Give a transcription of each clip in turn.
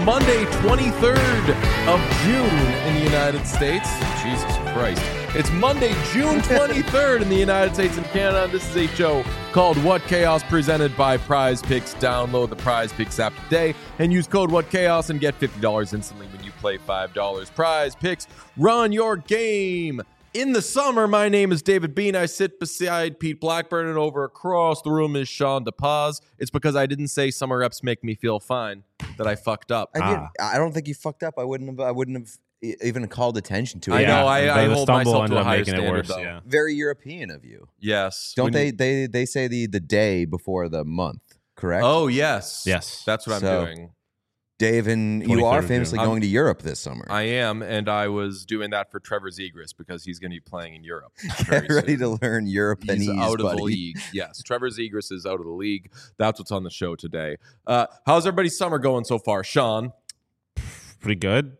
Monday, 23rd of June in the United States. Jesus Christ. It's Monday, June 23rd in the United States and Canada. This is a show called What Chaos, presented by Prize Picks. Download the Prize Picks app today and use code What Chaos and get $50 instantly when you play $5. Prize Picks, run your game. In the summer, my name is David Bean. I sit beside Pete Blackburn, and over across the room is Sean DePaz. It's because I didn't say summer reps make me feel fine that I fucked up. I don't think you fucked up. I wouldn't have even called attention to it. I know. I hold myself to a higher making standard, it worse, though. yeah. Very European of you. Yes. Don't they say the day before the month, correct? Oh, yes. Yes. That's what I'm So- doing. Dave, and you 23rd are of famously June. going to Europe this summer. I am, and I was doing that for Trevor Zegras because he's going to be playing in Europe. very Get ready soon. to learn Europeanese, He's out of buddy. the league. Yes, Trevor Zegras is out of the league. That's what's on the show today. How's everybody's summer going so far, Sean? Pretty good.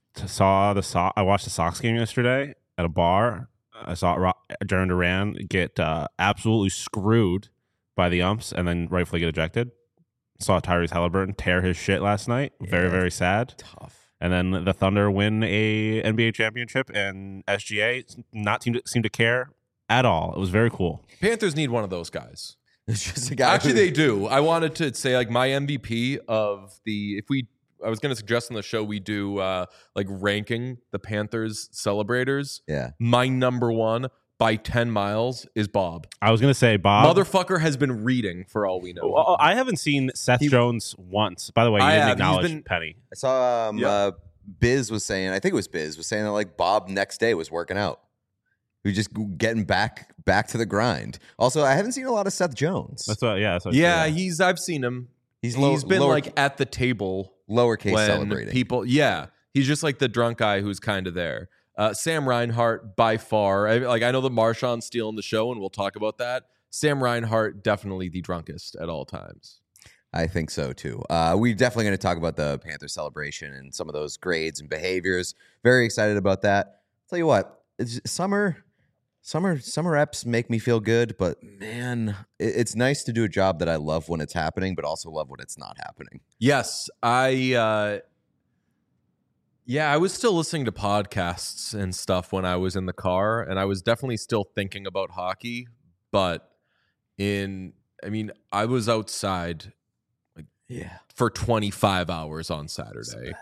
I watched the Sox game yesterday at a bar. I saw Jaron Duran get absolutely screwed by the umps and then rightfully get ejected. Saw Tyrese Halliburton tear his shit last night. Very, very sad. Tough. And then the Thunder win a NBA championship, and SGA seem to care at all. It was very cool. Panthers need one of those guys. It's just a guy. Actually, they do. I wanted to say, like, my MVP of the I was going to suggest on the show we do like ranking the Panthers celebrators. Yeah. My number one by 10 miles is Bob. I was going to say, Bob. Motherfucker has been reading for all we know. Well, I haven't seen Seth Jones once. By the way, you I didn't have. He's acknowledge been- Penny. I saw Yeah. Biz was saying, I think it was Biz, was saying that like Bob next day was working out. He was just getting back to the grind. Also, I haven't seen a lot of Seth Jones. That's what. Yeah. That's what Yeah, I've seen him. He's Been lower, like at the table lowercase when celebrating. people. Yeah, he's just like the drunk guy who's kind of there. Sam Reinhart by far. I know that Marshawn's stealing the show, and we'll talk about that. Sam Reinhart definitely the drunkest at all times. I think so too. We're definitely going to talk about the Panther celebration and some of those grades and behaviors. Very excited about that. Tell you what, it's summer reps make me feel good, but man, it's nice to do a job that I love when it's happening, but also love when it's not happening. Yes, I was still listening to podcasts and stuff when I was in the car, and I was definitely still thinking about hockey. But I was outside Yeah. for 25 hours on Saturday.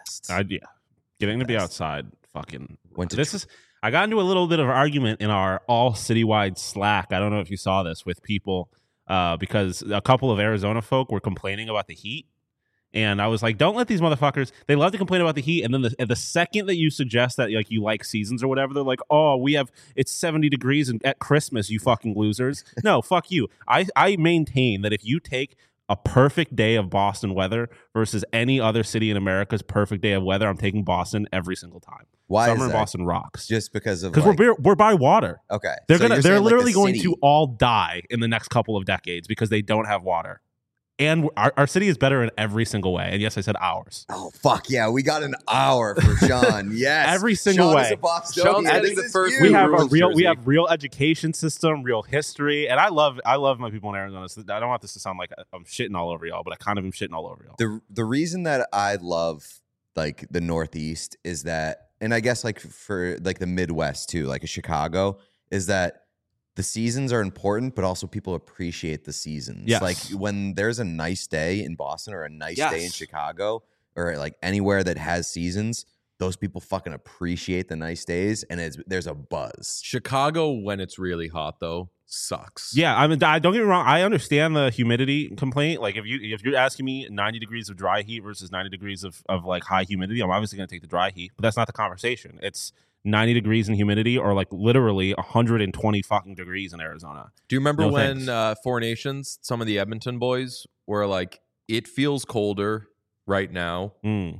Getting to be outside. Fucking. Went to I got into a little bit of an argument in our all citywide Slack. I don't know if you saw this with people because a couple of Arizona folk were complaining about the heat. And I was like, don't let these motherfuckers, they love to complain about the heat. And then the second that you suggest that like you like seasons or whatever, they're like, oh, it's 70 degrees and at Christmas, you fucking losers. No, fuck you. I maintain that if you take a perfect day of Boston weather versus any other city in America's perfect day of weather, I'm taking Boston every single time. Why Summer is in that? Boston rocks. Just because of Because we're by water. okay. They're So you're they're saying, like, literally the going city- to all die in the next couple of decades because they don't have water. And our city is better in every single way. And yes, I said ours. Oh fuck yeah! We got an hour for Sean. Yes, Every single Sean is way. a Bostonian. Sean's getting This the is first huge. We have Rules we jersey. have real education system, real history, and I love my people in Arizona. So I don't want this to sound like I'm shitting all over y'all, but I kind of am shitting all over y'all. The reason that I love like the Northeast is that, and I guess like for like the Midwest too, like a Chicago, is that the seasons are important, but also people appreciate the seasons. Yes. Like when there's a nice day in Boston or a nice day in Yes. Chicago or like anywhere that has seasons, those people fucking appreciate the nice days, and there's a buzz. Chicago, when it's really hot, though, sucks. Yeah, I mean, don't get me wrong. I understand the humidity complaint. Like, if you're asking me 90 degrees of dry heat versus 90 degrees of like high humidity, I'm obviously going to take the dry heat. But that's not the conversation. It's 90 degrees in humidity, or like literally 120 fucking degrees in Arizona. Do you remember No when thanks. Four Nations, some of the Edmonton boys were like, it feels colder right now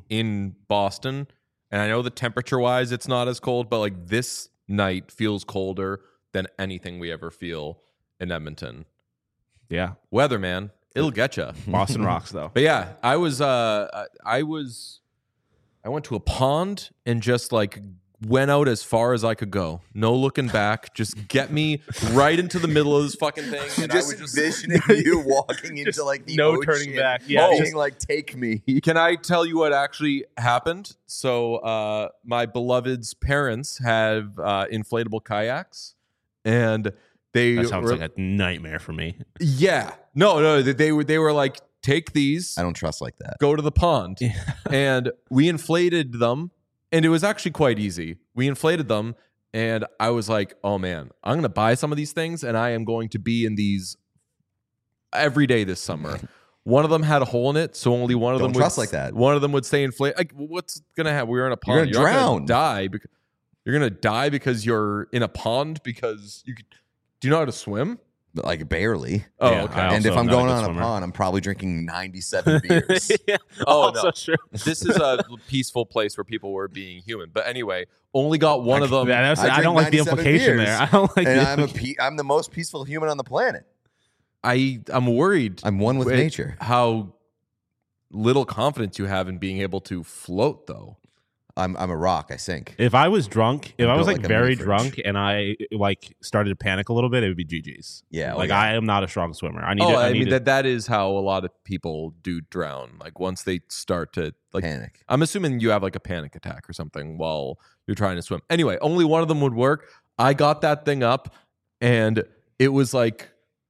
in Boston. And I know that temperature-wise it's not as cold, but like this night feels colder than anything we ever feel in Edmonton. Yeah, Weather, man, it'll get you. Boston rocks though. But yeah, I went to a pond and just like went out as far as I could go. No looking back. Just get me right into the middle of this fucking thing. And Just I was envisioning you walking into like the no ocean, turning back. Yeah, being just- like, take me. Can I tell you what actually happened? So my beloved's parents have inflatable kayaks, and they That sounds were, like a nightmare for me. yeah. No, they were like, take these, I don't trust like that. go to the pond. And we inflated them, and it was actually quite easy. We inflated them, and I was like, oh man, I'm going to buy some of these things, and I am going to be in these every day this summer. One of them had a hole in it, so only one of Don't them trust would, like that. One of them would stay inflated. Like, what's going to happen? We were in a pond. You're gonna not drown. die because you're going to die because you're in a pond because you could, do you know how to swim? But like barely. Oh, Yeah, okay. I And also if I'm am not a going good on swimmer. a pond, I'm probably drinking 97 beers. Yeah, Oh, also no. true. This is a peaceful place where people were being human. But anyway, only got one of them. Yeah, that's- I I don't drink like the 97 implication beers, there. I don't like. And the I'm the most peaceful human on the planet. I'm worried I'm one with Wait, nature. how little confidence you have in being able to float, though. I'm a rock. I sink. If I was drunk, if I'm I was built like like a very mini fridge. drunk and I like started to panic a little bit, it would be GG's. Yeah, like yeah. I am not a strong swimmer. I need. Oh, to, I need mean to, that is how a lot of people do drown. Like once they start to like Panic. I'm assuming you have like a panic attack or something while you're trying to swim. Anyway, only one of them would work. I got that thing up, and it was like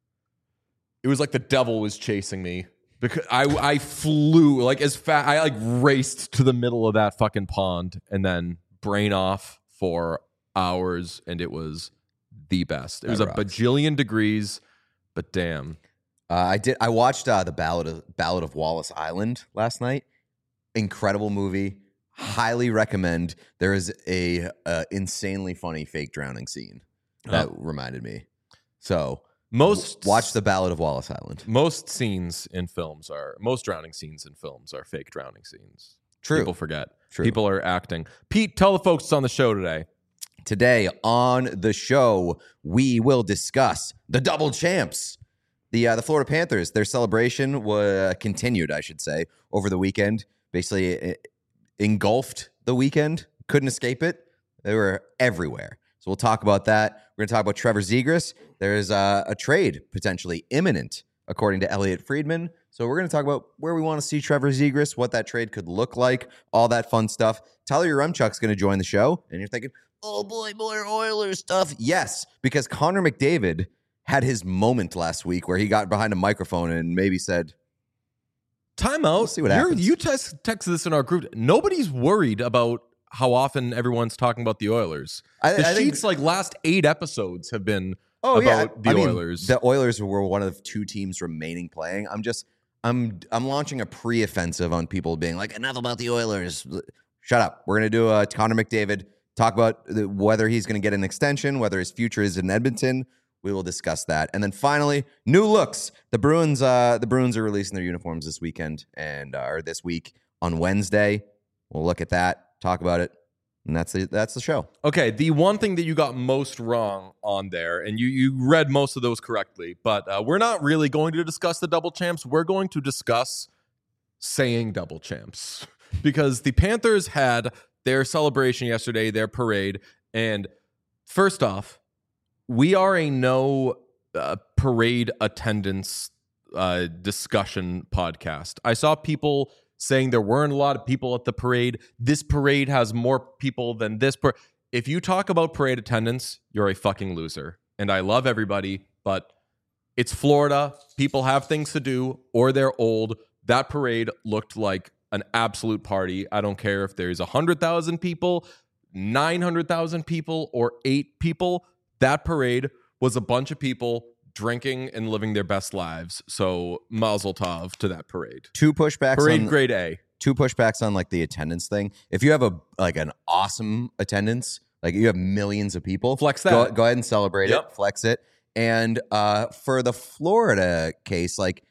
the devil was chasing me because I flew like as fast. I like raced to the middle of that fucking pond and then brain off for hours, and it was the best. It was That a rocks. bajillion degrees, but damn. I watched the Ballad of Wallace Island last night. Incredible movie. Highly recommend. There is a insanely funny fake drowning scene that reminded me. So watch the Ballad of Wallace Island. Most drowning scenes in films are fake drowning scenes. True. People forget. True. People are acting. Pete, tell the folks it's on the show today. Today on the show, we will discuss the double champs. The Florida Panthers, their celebration continued, I should say, over the weekend. Basically, it engulfed the weekend. Couldn't escape it. They were everywhere. So we'll talk about that. We're going to talk about Trevor Zegras. There's a trade potentially imminent, according to Elliot Friedman. So we're going to talk about where we want to see Trevor Zegras, what that trade could look like, all that fun stuff. Tyler Yaremchuk's going to join the show. And you're thinking, oh boy, more Oilers stuff. Yes, because Connor McDavid had his moment last week where he got behind a microphone and maybe said, Time out. We'll see what happens. You texted this in our group. Nobody's worried about how often everyone's talking about the Oilers. I The think- Sheets, like last 8 episodes have been oh, yeah. about the I mean, Oilers. The Oilers were one of 2 teams remaining playing. I'm launching a pre-offensive on people being like, enough about the Oilers. Shut up. We're going to do a Connor McDavid, talk about whether he's going to get an extension, whether his future is in Edmonton. We will discuss that. And then finally, new looks. The Bruins are releasing their uniforms this weekend or this week on Wednesday. We'll look at that, talk about it, and that's the show. Okay, the one thing that you got most wrong on there, and you read most of those correctly, but we're not really going to discuss the double champs. We're going to discuss saying double champs because the Panthers had their celebration yesterday, their parade, and first off, we are a no parade attendance discussion podcast. I saw people saying there weren't a lot of people at the parade. This parade has more people than this. If you talk about parade attendance, you're a fucking loser. And I love everybody, but it's Florida. People have things to do or they're old. That parade looked like an absolute party. I don't care if there's 100,000 people, 900,000 people, or 8 people. That parade was a bunch of people drinking and living their best lives. So mazel tov to that parade. Two pushbacks Parade on grade A. two pushbacks on like the attendance thing. If you have an awesome attendance, like you have millions of people, Flex that. Go ahead and celebrate Yep. it, flex it. And for the Florida case, like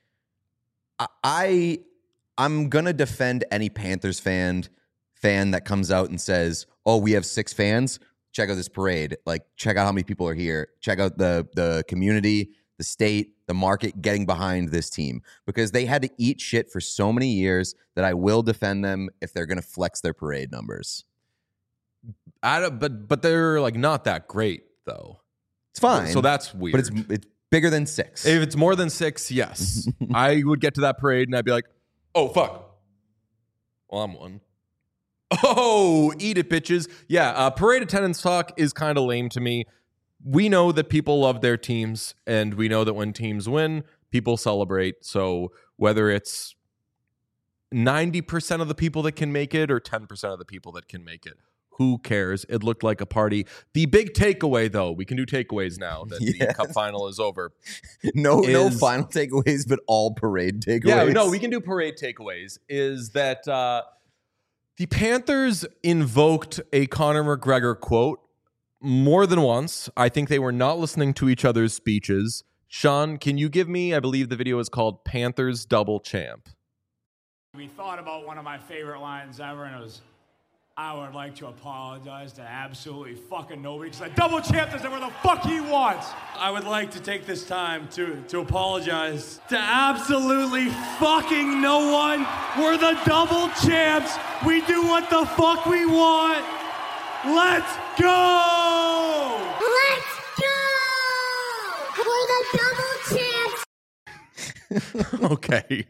I'm gonna defend any Panthers fan that comes out and says, "Oh, we have 6 fans. Check out this parade. Like, check out how many people are here. Check out the community, the state, the market getting behind this team," because they had to eat shit for so many years that I will defend them if they're going to flex their parade numbers. But they're like not that great though. It's fine. So that's weird. But it's bigger than 6. If it's more than 6, yes. I would get to that parade and I'd be like, oh, fuck. Well, I'm one. Oh, eat it, bitches. Yeah, parade attendance talk is kind of lame to me. We know that people love their teams, and we know that when teams win, people celebrate. So whether it's 90% of the people that can make it or 10% of the people that can make it, who cares? It looked like a party. The big takeaway, though, we can do takeaways now that the Cup final is over. No final takeaways, but all parade takeaways. Yeah, no, we can do parade takeaways. Is that the Panthers invoked a Conor McGregor quote more than once. I think they were not listening to each other's speeches. Sean, can you give me, I believe the video is called Panthers Double Champ. We thought about one of my favorite lines ever, and it was, I would like to apologize to absolutely fucking nobody because the double champ does whatever the fuck he wants. I would like to take this time to apologize to absolutely fucking no one. We're the double champs. We do what the fuck we want. Let's go! Let's go! We're the double champs. Okay.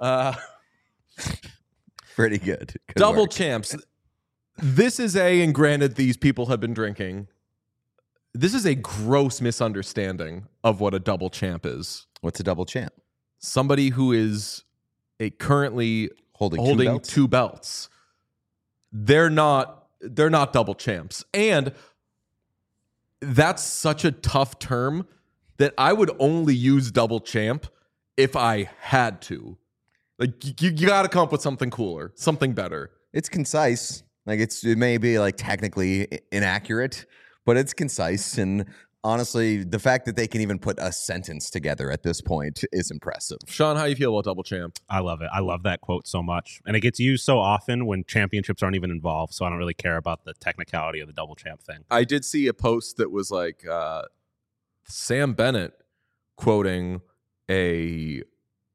Pretty good. Good Double work. champs. This is and granted, these people have been drinking. This is a gross misunderstanding of what a double champ is. What's a double champ? Somebody who is currently holding two belts. They're not double champs. And that's such a tough term that I would only use double champ if I had to. Like you got to come up with something cooler, something better. It's concise. Like it may be like technically inaccurate, but it's concise. And honestly, the fact that they can even put a sentence together at this point is impressive. Sean, how you feel about double champ? I love it. I love that quote so much. And it gets used so often when championships aren't even involved. So I don't really care about the technicality of the double champ thing. I did see a post that was like Sam Bennett quoting a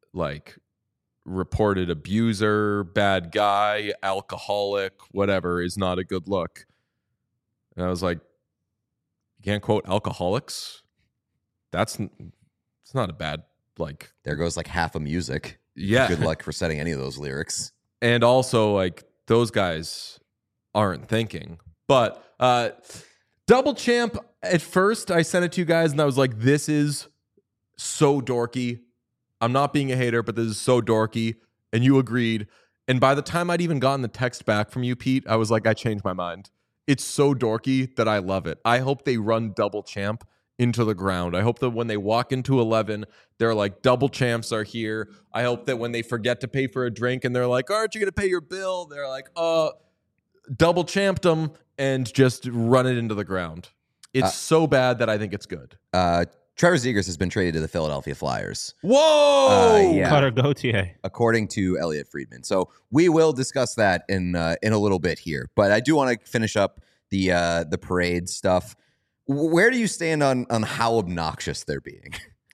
reported abuser, bad guy, alcoholic, whatever, is not a good look. And I was like, you can't quote alcoholics? It's not a bad, There goes like half of music. Yeah. Good luck for setting any of those lyrics. And also, those guys aren't thinking. But double champ, at first, I sent it to you guys, and I was like, this is so dorky. I'm not being a hater, but this is so dorky. And you agreed. And by the time I'd even gotten the text back from you, Pete, I was like, I changed my mind. It's so dorky that I love it. I hope they run double champ into the ground. I hope that when they walk into 11, they're like, double champs are here. I hope that when they forget to pay for a drink and they're like, aren't you going to pay your bill? They're like, double champed them, and just run it into the ground. It's so bad that I think it's good. Trevor Zegras has been traded to the Philadelphia Flyers. Whoa! Yeah. Cutter Gauthier. According to Elliot Friedman. So we will discuss that in a little bit here. But I do want to finish up the parade stuff. Where do you stand on how obnoxious they're being?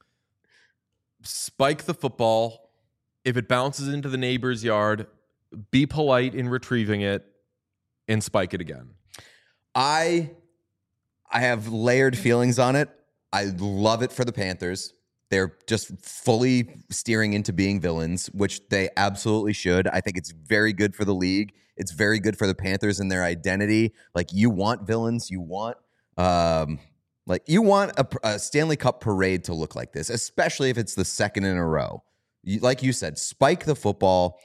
Spike the football. If it bounces into the neighbor's yard, be polite in retrieving it and spike it again. I have layered feelings on it. I love it for the Panthers. They're just fully steering into being villains, which they absolutely should. I think it's very good for the league. It's very good for the Panthers and their identity. You want villains. You want a Stanley Cup parade to look like this, especially if it's the second in a row. Like you said, spike the football,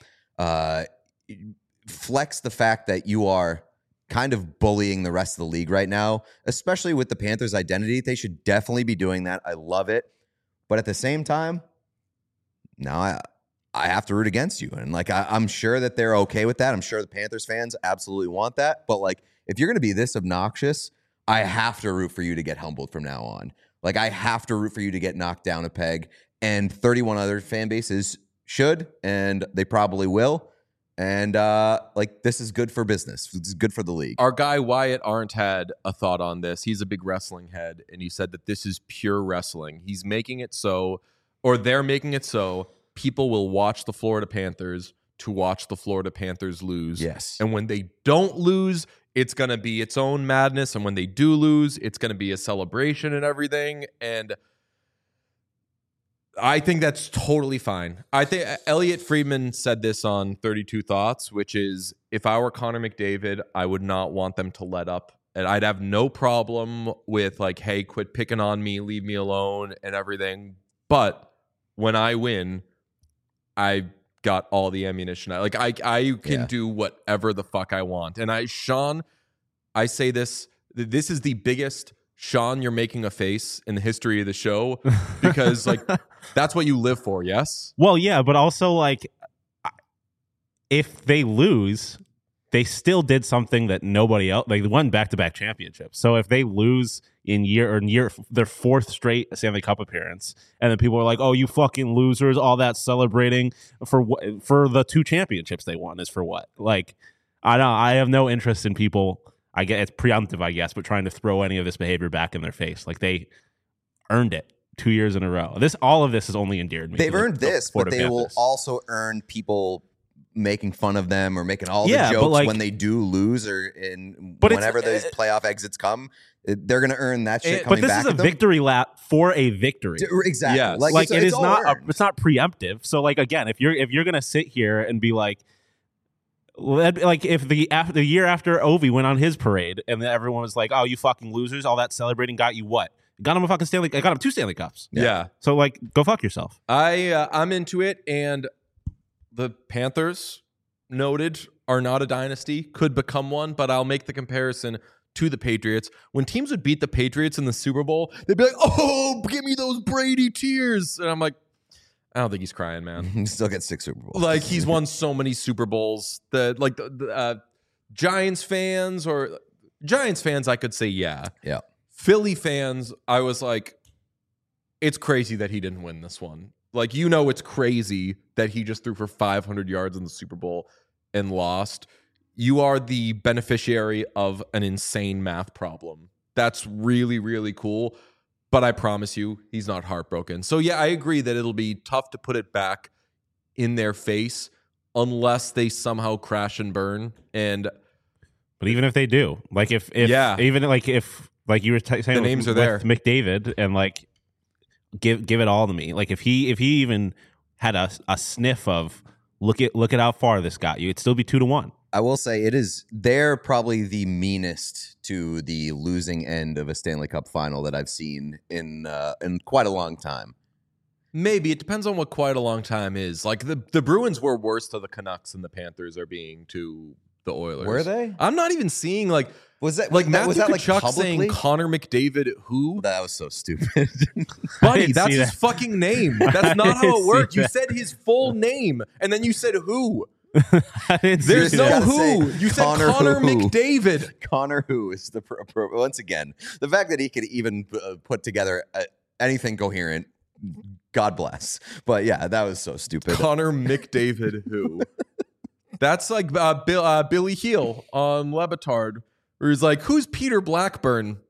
flex the fact that you are kind of bullying the rest of the league right now, especially with the Panthers' identity. They should definitely be doing that. I love it. But at the same time, now I have to root against you. And I'm sure that they're okay with that. I'm sure the Panthers fans absolutely want that. But if you're going to be this obnoxious, I have to root for you to get humbled from now on. I have to root for you to get knocked down a peg. And 31 other fan bases should, and they probably will. And this is good for business. It's good for the league. Our guy Wyatt Arndt had a thought on this. He's a big wrestling head, and he said that this is pure wrestling. He's making it so, or they're making it so, people will watch the Florida Panthers to watch the Florida Panthers lose. Yes. And when they don't lose, it's going to be its own madness. And when they do lose, it's going to be a celebration and everything. And I think that's totally fine. I think Elliot Friedman said this on 32 Thoughts, which is, if I were Connor McDavid, I would not want them to let up. And I'd have no problem with like, hey, quit picking on me, leave me alone and everything. But when I win, I got all the ammunition. I can do whatever the fuck I want. And Sean, I say this is the biggest Sean, you're making a face in the history of the show, because like that's what you live for. Yes. Well, yeah, but also like if they lose, they still did something that nobody else, like, they won back-to-back championships. So if they lose in their fourth straight Stanley Cup appearance, and then people are like, "Oh, you fucking losers!" All that celebrating for the 2 championships they won is for what? Like, I have no interest in people. I get it's preemptive, I guess, but trying to throw any of this behavior back in their face. Like, they earned it 2 years in a row. All of this has only endeared me. They've earned this, but they will also earn people making fun of them or making all the jokes when they do lose, or whenever those playoff exits come, they're going to earn that shit coming back. But this is a victory lap for a victory. Exactly. Yes. Like it's not preemptive. So like, again, if you're going to sit here and be like if the year after Ovi went on his parade and then everyone was like, "Oh, you fucking losers, all that celebrating got you what?" Got him a fucking Stanley. I got him 2 Stanley Cups. Yeah. So like, go fuck yourself. I'm into it, and the Panthers, noted, are not a dynasty, could become one, but I'll make the comparison to the Patriots. When teams would beat the Patriots in the Super Bowl, they'd be like, "Oh, give me those Brady tears." And I'm like, I don't think he's crying, man. He still gets 6 Super Bowls. Like, he's won so many Super Bowls that, like, the Giants fans, I could say, yeah. Yeah. Philly fans, I was like, it's crazy that he didn't win this one. Like, it's crazy that he just threw for 500 yards in the Super Bowl and lost. You are the beneficiary of an insane math problem. That's really, really cool. But I promise you, he's not heartbroken. So, yeah, I agree that it'll be tough to put it back in their face unless they somehow crash and burn. But even if they do, like if like you were saying, the names are there, McDavid, and like give it all to me. Like if he even had a sniff of look at how far this got you, it'd still be 2-1. I will say they're probably the meanest to the losing end of a Stanley Cup final that I've seen in quite a long time. Maybe. It depends on what quite a long time is. Like the Bruins were worse to the Canucks than the Panthers are being to the Oilers. Were they? I'm not even seeing like was that Matthew like Tkachuk publicly? Saying Connor McDavid who? That was so stupid. Buddy, that's his fucking name. That's not how it worked. You said his full name and then you said who. There's no who. You said Connor McDavid. Connor who is the once again, the fact that he could even put together anything coherent, God bless. But yeah, that was so stupid. Connor McDavid who? That's like Billy Heel on Le Batard, where he's like, "Who's Peter Blackburn?"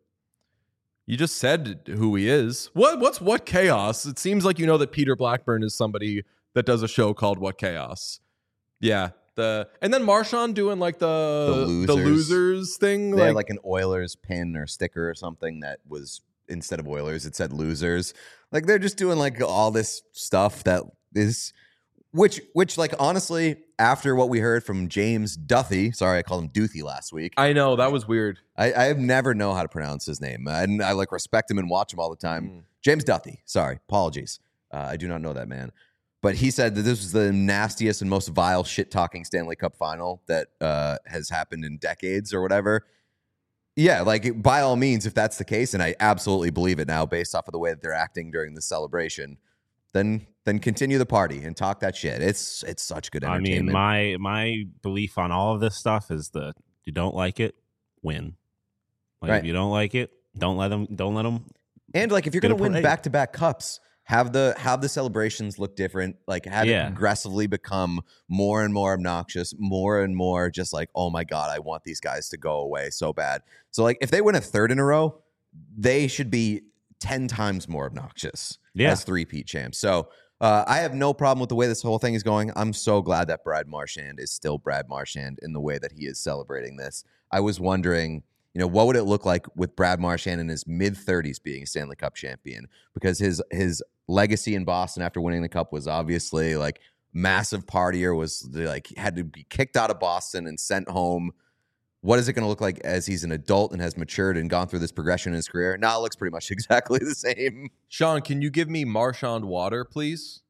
You just said who he is. What's What Chaos? It seems like you know that Peter Blackburn is somebody that does a show called What Chaos. Yeah. And then Marchand doing like the losers thing. They had like an Oilers pin or sticker or something that was, instead of Oilers, it said losers. Like they're just doing like all this stuff that is, which like honestly, after what we heard from James Duthie, sorry, I called him Duthie last week. I know, that was weird. I have never know how to pronounce his name. And I like respect him and watch him all the time. James Duthie, sorry, apologies. I do not know that man. But he said that this was the nastiest and most vile shit-talking Stanley Cup final that has happened in decades or whatever. Yeah, like, by all means, if that's the case, and I absolutely believe it now based off of the way that they're acting during the celebration, then continue the party and talk that shit. It's such good entertainment. I mean, my belief on all of this stuff is that you don't like it, win. Like, right. If you don't like it, don't let them. And, like, if you're going to win back-to-back cups, have the celebrations look different, like have it aggressively become more and more obnoxious, more and more just like, oh my God, I want these guys to go away so bad. So like if they win a third in a row, they should be 10 times more obnoxious as three-peat champs. So I have no problem with the way this whole thing is going. I'm so glad that Brad Marchand is still Brad Marchand in the way that he is celebrating this. I was wondering, what would it look like with Brad Marchand in his mid-30s being a Stanley Cup champion? Because his legacy in Boston after winning the Cup was obviously like massive partier, was like had to be kicked out of Boston and sent home. What is it going to look like as he's an adult and has matured and gone through this progression in his career? Now it looks pretty much exactly the same. Sean, can you give me Marchand water, please?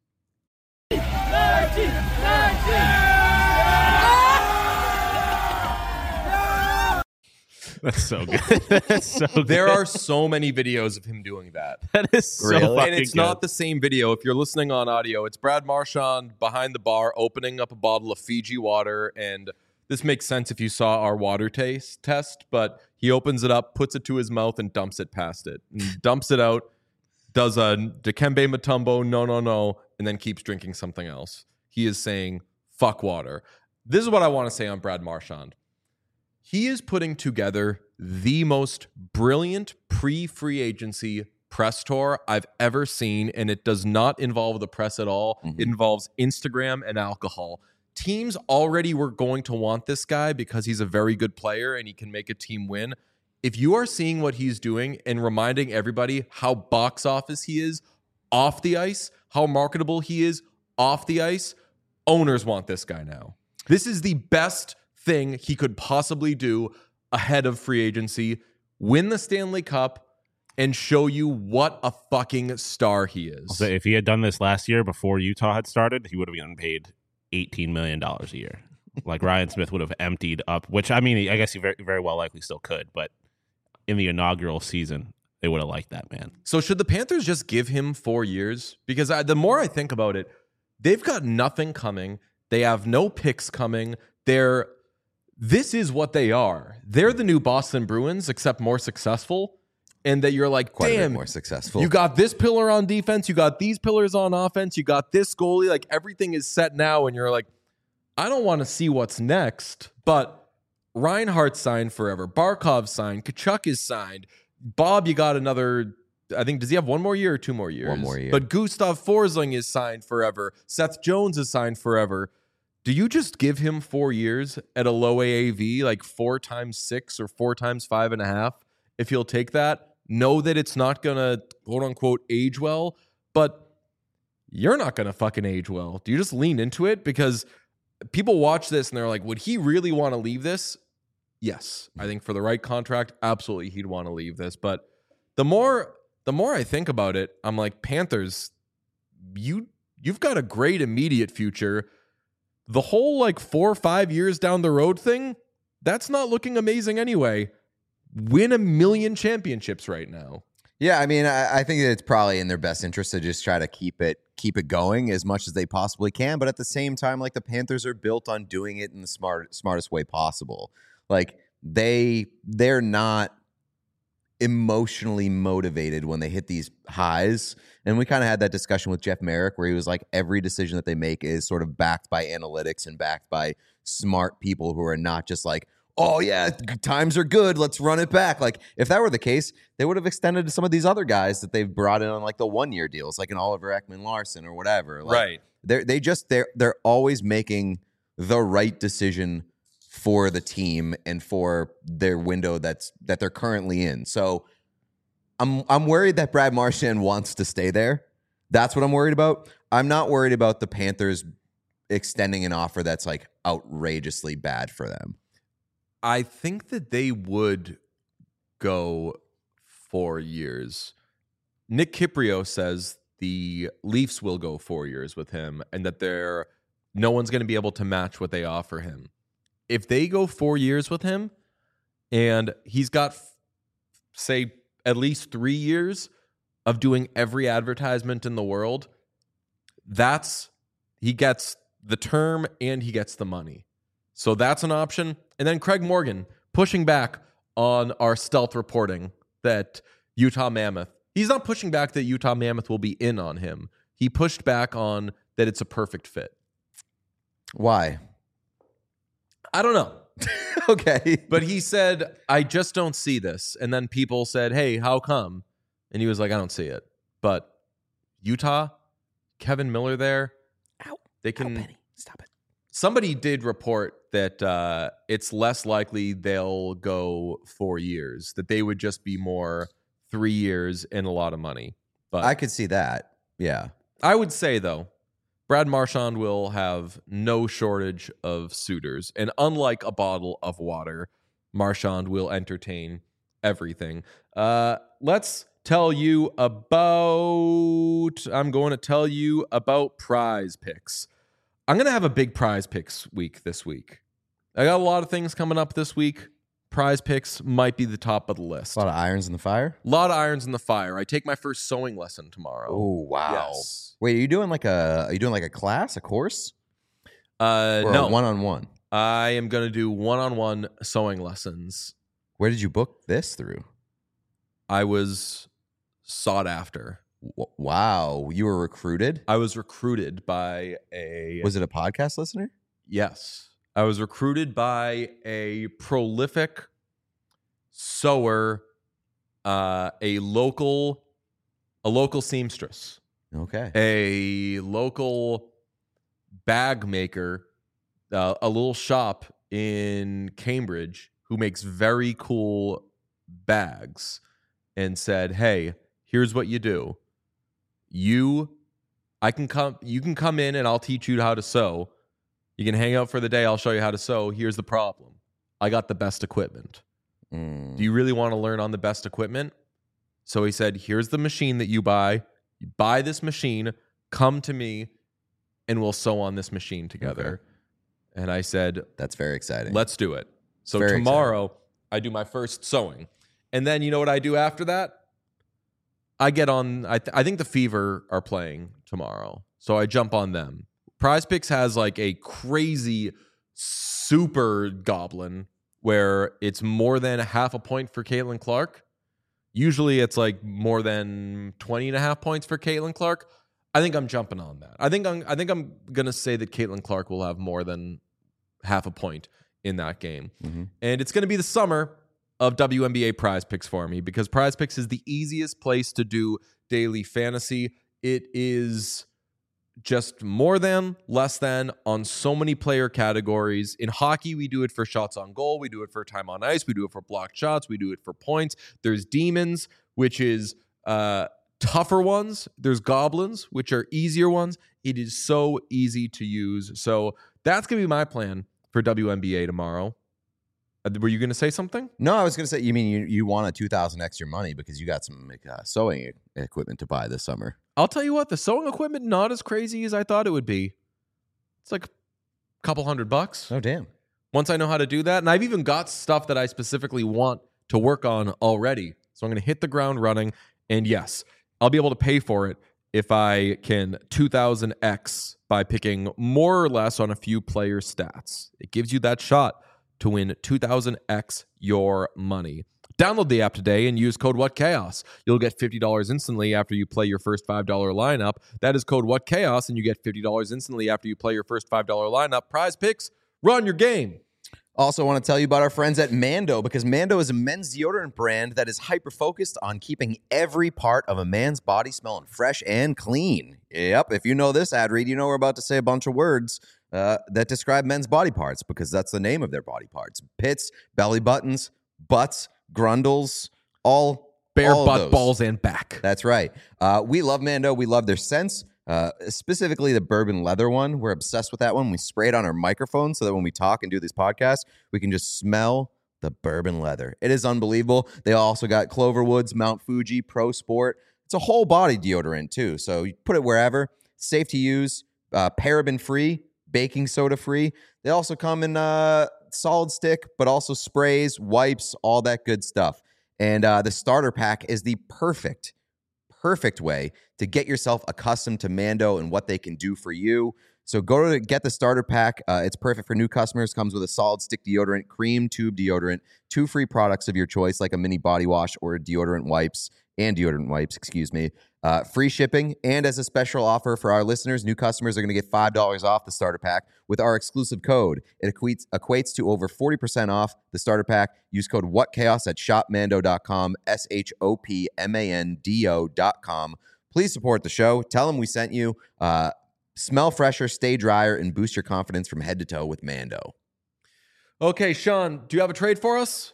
That's so good. That's so good. There are so many videos of him doing that. That is so Really? fucking And it's good. not the same video. If you're listening on audio, it's Brad Marchand behind the bar opening up a bottle of Fiji water. And this makes sense if you saw our water test, but he opens it up, puts it to his mouth, and dumps it past it. And dumps it out, does a Dikembe Mutombo, no, and then keeps drinking something else. He is saying, fuck water. This is what I want to say on Brad Marchand. He is putting together the most brilliant pre-free agency press tour I've ever seen, and it does not involve the press at all. Mm-hmm. It involves Instagram and alcohol. Teams already were going to want this guy because he's a very good player and he can make a team win. If you are seeing what he's doing and reminding everybody how box office he is off the ice, how marketable he is off the ice, owners want this guy now. This is the best thing he could possibly do ahead of free agency. Win the Stanley Cup and show you what a fucking star he is. So if he had done this last year before Utah had started, he would have gotten paid $18 million a year. Like Ryan Smith would have emptied up, which I mean, I guess he very, very well likely still could, but in the inaugural season, they would have liked that man. So should the Panthers just give him 4 years? Because the more I think about it, they've got nothing coming. They have no picks coming. This is what they are. They're the new Boston Bruins, except more successful. And that you're like, Quite a bit damn, more successful. you got this pillar on defense. You got these pillars on offense. You got this goalie. Like everything is set now. And you're like, I don't want to see what's next. But Reinhardt signed forever. Barkov signed. Kachuk is signed. Bob, you got another, I think, does he have 1 more year or 2 more years? 1 more year. But Gustav Forsling is signed forever. Seth Jones is signed forever. Do you just give him 4 years at a low AAV, like 4 times 6 or 4 times 5.5? If he'll take that, know that it's not going to, quote unquote, age well, but you're not going to fucking age well. Do you just lean into it? Because people watch this and they're like, would he really want to leave this? Yes. I think for the right contract, absolutely he'd want to leave this. But the more I think about it, I'm like, Panthers, you've got a great immediate future. The whole like 4 or 5 years down the road thing, that's not looking amazing anyway. Win 1 million championships right now. Yeah, I mean, I think that it's probably in their best interest to just try to keep it going as much as they possibly can. But at the same time, like the Panthers are built on doing it in the smartest way possible. Like they're not emotionally motivated when they hit these highs. And we kind of had that discussion with Jeff Merrick where he was like, every decision that they make is sort of backed by analytics and backed by smart people who are not just like, oh yeah, times are good, let's run it back. Like if that were the case, they would have extended some of these other guys that they've brought in on like the 1 year deals, like an Oliver Ekman-Larsson or whatever. Like, Right. They're always making the right decision for the team and for their window that they're currently in. So I'm worried that Brad Marchand wants to stay there. That's what I'm worried about. I'm not worried about the Panthers extending an offer that's like outrageously bad for them. I think that they would go 4 years. Nick Kiprio says the Leafs will go 4 years with him and that no one's going to be able to match what they offer him. If they go 4 years with him and he's got, say, at least 3 years of doing every advertisement in the world, he gets the term and he gets the money. So that's an option. And then Craig Morgan pushing back on our stealth reporting that Utah Mammoth, he's not pushing back that Utah Mammoth will be in on him. He pushed back on that it's a perfect fit. Why? I don't know. Okay. But he said, I just don't see this. And then people said, hey, how come? And he was like, I don't see it. But Utah, Kevin Miller there, they can. Penny, stop it. Somebody did report that it's less likely they'll go 4 years, that they would just be more 3 years and a lot of money. But I could see that. Yeah. I would say, though, Brad Marchand will have no shortage of suitors. And unlike a bottle of water, Marchand will entertain everything. Let's tell you about... I'm going to tell you about Prize Picks. I'm going to have a big Prize Picks week this week. I got a lot of things coming up this week. Prize Picks might be the top of the list. A lot of irons in the fire. A lot of irons in the fire. I take my first sewing lesson tomorrow. Oh, wow. Yes. Wait, are you doing like a class, a course? Or No. a one-on-one? I am going to do one-on-one sewing lessons. Where did you book this through? I was sought after. Wow. You were recruited? I was recruited by a... Was it a podcast listener? Yes. I was recruited by a prolific sewer, a local seamstress, Okay. a local bag maker, a little shop in Cambridge who makes very cool bags, and said, "Hey, here's what you do. You can come in and I'll teach you how to sew. You can hang out for the day. I'll show you how to sew. Here's the problem. I got the best equipment. Do you really want to learn on the best equipment?" So he said, "Here's the machine that you buy. You buy this machine, come to me, and we'll sew on this machine together." Okay. And I said, "That's very exciting. Let's do it." So very tomorrow, exciting. I do my first sewing. And then you know what I do after that? I get on, I think the Fever are playing tomorrow. So I jump on them. Prize Picks has like a crazy super goblin where it's more than half a point for Caitlin Clark. Usually it's like more than 20.5 points for Caitlin Clark. I think I'm jumping on that. I think I'm gonna say that Caitlin Clark will have more than half a point in that game. Mm-hmm. And it's gonna be the summer of WNBA Prize Picks for me because Prize Picks is the easiest place to do daily fantasy. It is just more than, less than on so many player categories. In hockey, we do it for shots on goal. We do it for time on ice. We do it for blocked shots. We do it for points. There's demons, which is tougher ones. There's goblins, which are easier ones. It is so easy to use. So that's going to be my plan for WNBA tomorrow. Were you going to say something? No, I was going to say, you mean you want a 2,000 extra money because you got some sewing equipment to buy this summer. I'll tell you what, the sewing equipment, not as crazy as I thought it would be. It's like a couple $100. Oh, damn. Once I know how to do that. And I've even got stuff that I specifically want to work on already. So I'm going to hit the ground running. And yes, I'll be able to pay for it if I can 2,000x by picking more or less on a few player stats. It gives you that shot to win 2,000x your money. Download the app today and use code WhatChaos. You'll get $50 instantly after you play your first $5 lineup. That is code WhatChaos, and you get $50 instantly after you play your first $5 lineup. Prize Picks, run your game. Also want to tell you about our friends at Mando, because Mando is a men's deodorant brand that is hyper-focused on keeping every part of a man's body smelling fresh and clean. Yep, if you know this ad read, you know we're about to say a bunch of words that describe men's body parts, because that's the name of their body parts. Pits, belly buttons, butts, grundles, all bare all butt, balls, and back. That's right. We love Mando. We love their scents, specifically the bourbon leather one. We're obsessed with that one. We spray it on our microphone so that when we talk and do these podcasts, we can just smell the bourbon leather. It is unbelievable. They also got Cloverwoods, Mount Fuji, Pro Sport. It's a whole body deodorant too. So you put it wherever. Safe to use, paraben free, baking soda free. They also come in solid stick, but also sprays, wipes, all that good stuff. And the starter pack is the perfect way to get yourself accustomed to Mando and what they can do for you. So go to get the starter pack. It's perfect for new customers. Comes with a solid stick deodorant, cream tube deodorant, 2 free products of your choice, like a mini body wash or deodorant wipes, free shipping. And as a special offer for our listeners, new customers are going to get $5 off the starter pack with our exclusive code. It equates to over 40% off the starter pack. Use code WhatChaos at shopmando.com, shopmando.com. Please support the show. Tell them we sent you. Smell fresher, stay drier, and boost your confidence from head to toe with Mando. Okay, Sean, do you have a trade for us?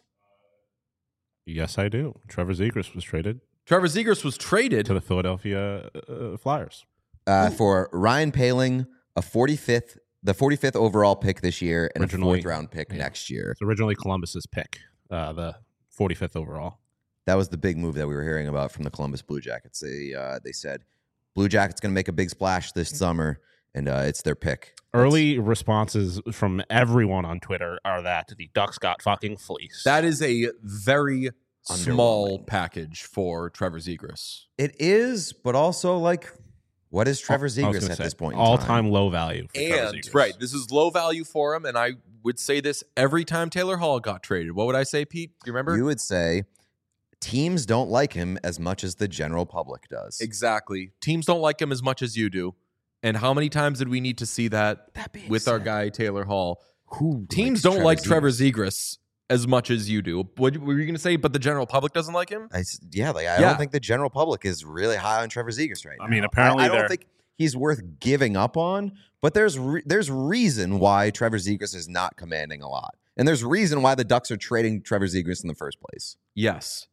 Yes, I do. Trevor Zegras was traded Trevor Zegras was traded. to the Philadelphia Flyers. For Ryan Poehling, the 45th overall pick this year, and Originally- a 4th round pick next year. It's originally Columbus's pick, the 45th overall. That was the big move that we were hearing about from the Columbus Blue Jackets. They said Blue Jackets going to make a big splash this summer, and it's their pick. Early responses from everyone on Twitter are that the Ducks got fucking fleeced. That is a very small Underwhelming. package for Trevor Zegras. It is, but also like, what is Trevor I was Zegras gonna at say, this point in all time? time low value. For Trevor And Zegras. right, this is low value for him, and I would say this every time Taylor Hall got traded. What would I say, Pete? Do you remember? You would say teams don't like him as much as the general public does. Exactly. Teams don't like him as much as you do. And how many times did we need to see that being with our said, guy Taylor Hall? who Teams likes don't like Trevor Zegras? Zegras as much as you do. What were you going to say? But the general public doesn't like him? I Yeah. don't think the general public is really high on Trevor Zegras right now. I mean, apparently I don't they're- think he's worth giving up on. But there's reason why Trevor Zegras is not commanding a lot, and there's reason why the Ducks are trading Trevor Zegras in the first place. Yes.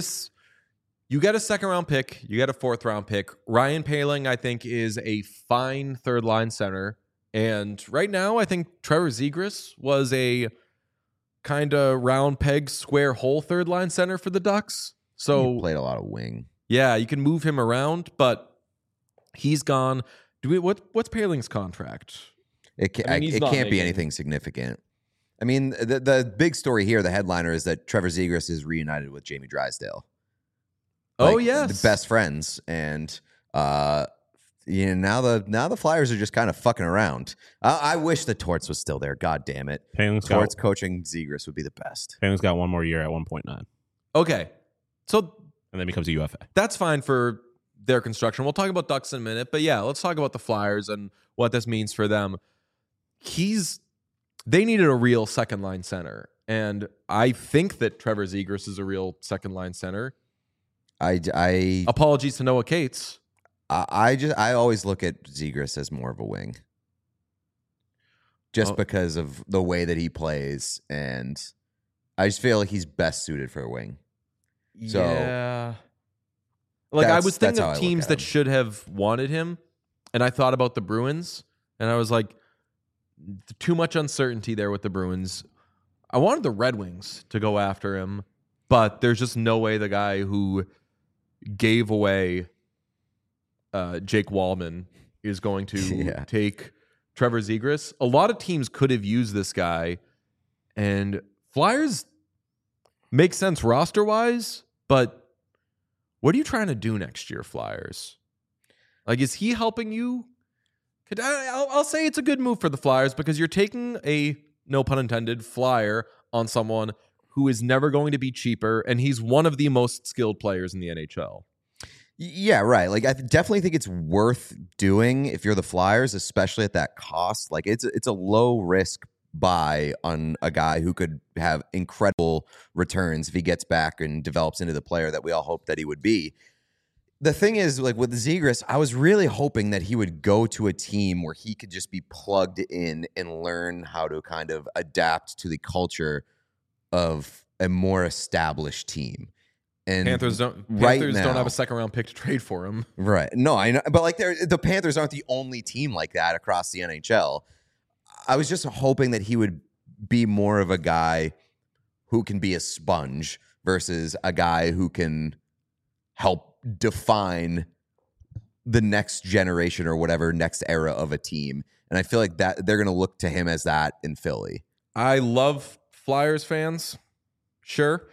You get a 2nd round pick, you get a 4th round pick. Ryan Poehling, I think, is a fine 3rd line center. And right now, I think Trevor Zegras was a kind of round peg, square hole 3rd line center for the Ducks. He So, played a lot of wing. yeah, you can move him around, but he's gone. What's Poehling's contract? It I mean, he's not can't be making- anything significant. I mean, the big story here, the headliner, is that Trevor Zegras is reunited with Jamie Drysdale. Oh, Like, yes. the best friends, and now the Flyers are just kind of fucking around. I wish the Torts was still there. God damn it, Poehling's Torts got, coaching Zegras would be the best. Poehling's got one more year at 1.9, Okay. So and then becomes a UFA. that's fine for their construction. We'll talk about Ducks in a minute, but yeah, let's talk about the Flyers and what this means for them. They needed a real 2nd line center, and I think that Trevor Zegras is a real 2nd line center. I Apologies to Noah Cates. always look at Zegras as more of a wing, just Oh. because of the way that he plays, and I just feel like he's best suited for a wing. So- yeah, like I That's- was thinking that's how I of look teams at that him. should have wanted him, and I thought about the Bruins, and I was like, too much uncertainty there with the Bruins. I wanted the Red Wings to go after him, but there's just no way the guy who gave away Jake Wallman is going to Yeah. take Trevor Zegras. A lot of teams could have used this guy, and Flyers make sense roster wise, but what are you trying to do next year, Flyers? Like, is he helping you? I'll say it's a good move for the Flyers because you're taking a, no pun intended, flyer on someone who is never going to be cheaper, and he's one of the most skilled players in the NHL. Yeah, right. Like I definitely think it's worth doing if you're the Flyers, especially at that cost. Like it's a low risk buy on a guy who could have incredible returns if he gets back and develops into the player that we all hope that he would be. The thing is, like with Zegras, I was really hoping that he would go to a team where he could just be plugged in and learn how to kind of adapt to the culture of a more established team. And Panthers don't right don't now- have a 2nd round pick to trade for him. Right. No, I know. But like the Panthers aren't the only team like that across the NHL. I was just hoping that he would be more of a guy who can be a sponge versus a guy who can help define the next generation or whatever next era of a team. And I feel like that they're going to look to him as that in Philly. I love Flyers fans. Sure.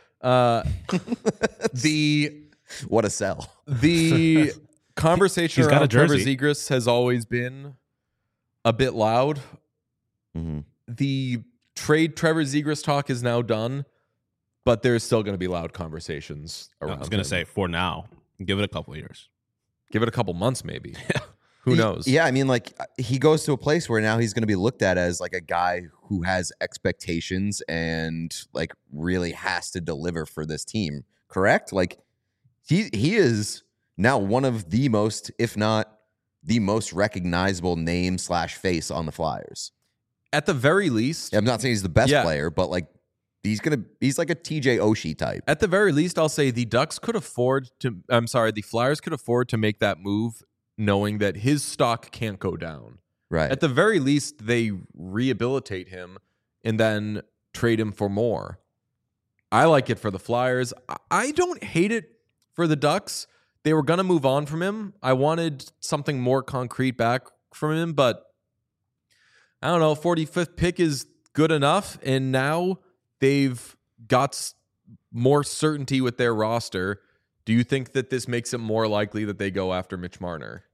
What a sell. The conversation He's got a around Trevor jersey. Zegras has always been a bit loud. Mm-hmm. The trade Trevor Zegras talk is now done, but there's still going to be loud conversations I around was going him. to say for now, give it a couple of years. Give it a couple months, maybe. Who knows? Yeah, I mean, like he goes to a place where now he's going to be looked at as like a guy who has expectations and like really has to deliver for this team. Correct? Like he is now one of the most, if not the most recognizable name / face on the Flyers. At the very least, I'm not saying he's the best Yeah. player, but like he's like a TJ Oshie type. at the very least, I'll say the Flyers could afford to make that move knowing that his stock can't go down. Right. At the very least, they rehabilitate him and then trade him for more. I like it for the Flyers. I don't hate it for the Ducks. They were going to move on from him. I wanted something more concrete back from him, but I don't know. 45th pick is good enough, and now they've got more certainty with their roster. Do you think that this makes it more likely that they go after Mitch Marner?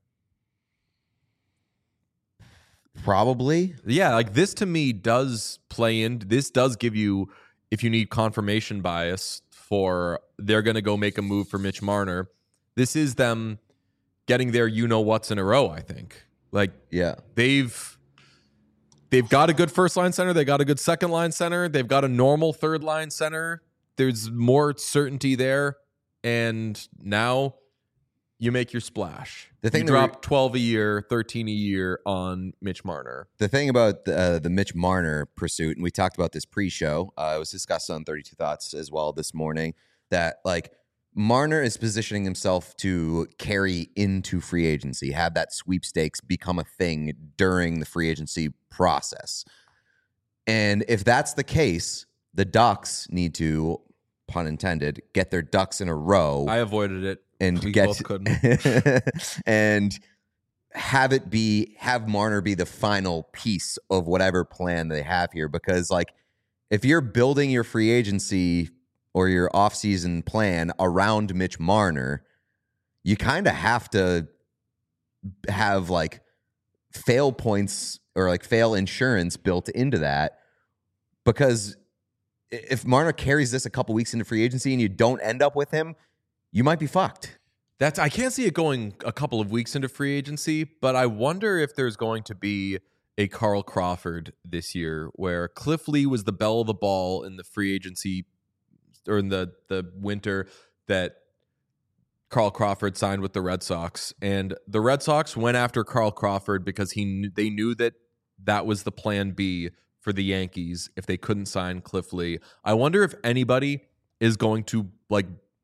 Probably. Yeah, like this to me does play in. This does give you, if you need confirmation bias for they're going to go make a move for Mitch Marner, this is them getting their you-know-what's in a row, I think. Like, Yeah. they've got a good first-line center. They got a good second-line center. They've got a normal third-line center. There's more certainty there. And now you make your splash. The thing you that drop 12 a year, 13 a year on Mitch Marner. The thing about the Mitch Marner pursuit, and we talked about this pre-show, it was discussed on 32 Thoughts as well this morning, that like Marner is positioning himself to carry into free agency, have that sweepstakes become a thing during the free agency process. And if that's the case, the Ducks need to, pun intended, get their ducks in a row. I avoided it. And We get both couldn't. and have Marner be the final piece of whatever plan they have here. Because like if you're building your free agency or your offseason plan around Mitch Marner, you kind of have to have like fail points or like fail insurance built into that, because if Marner carries this a couple weeks into free agency and you don't end up with him, you might be fucked. I can't see it going a couple of weeks into free agency, but I wonder if there's going to be a Carl Crawford this year where Cliff Lee was the belle of the ball in the free agency or in the winter that Carl Crawford signed with the Red Sox. And the Red Sox went after Carl Crawford because they knew that was the plan B for the Yankees if they couldn't sign Cliff Lee. I wonder if anybody is going to like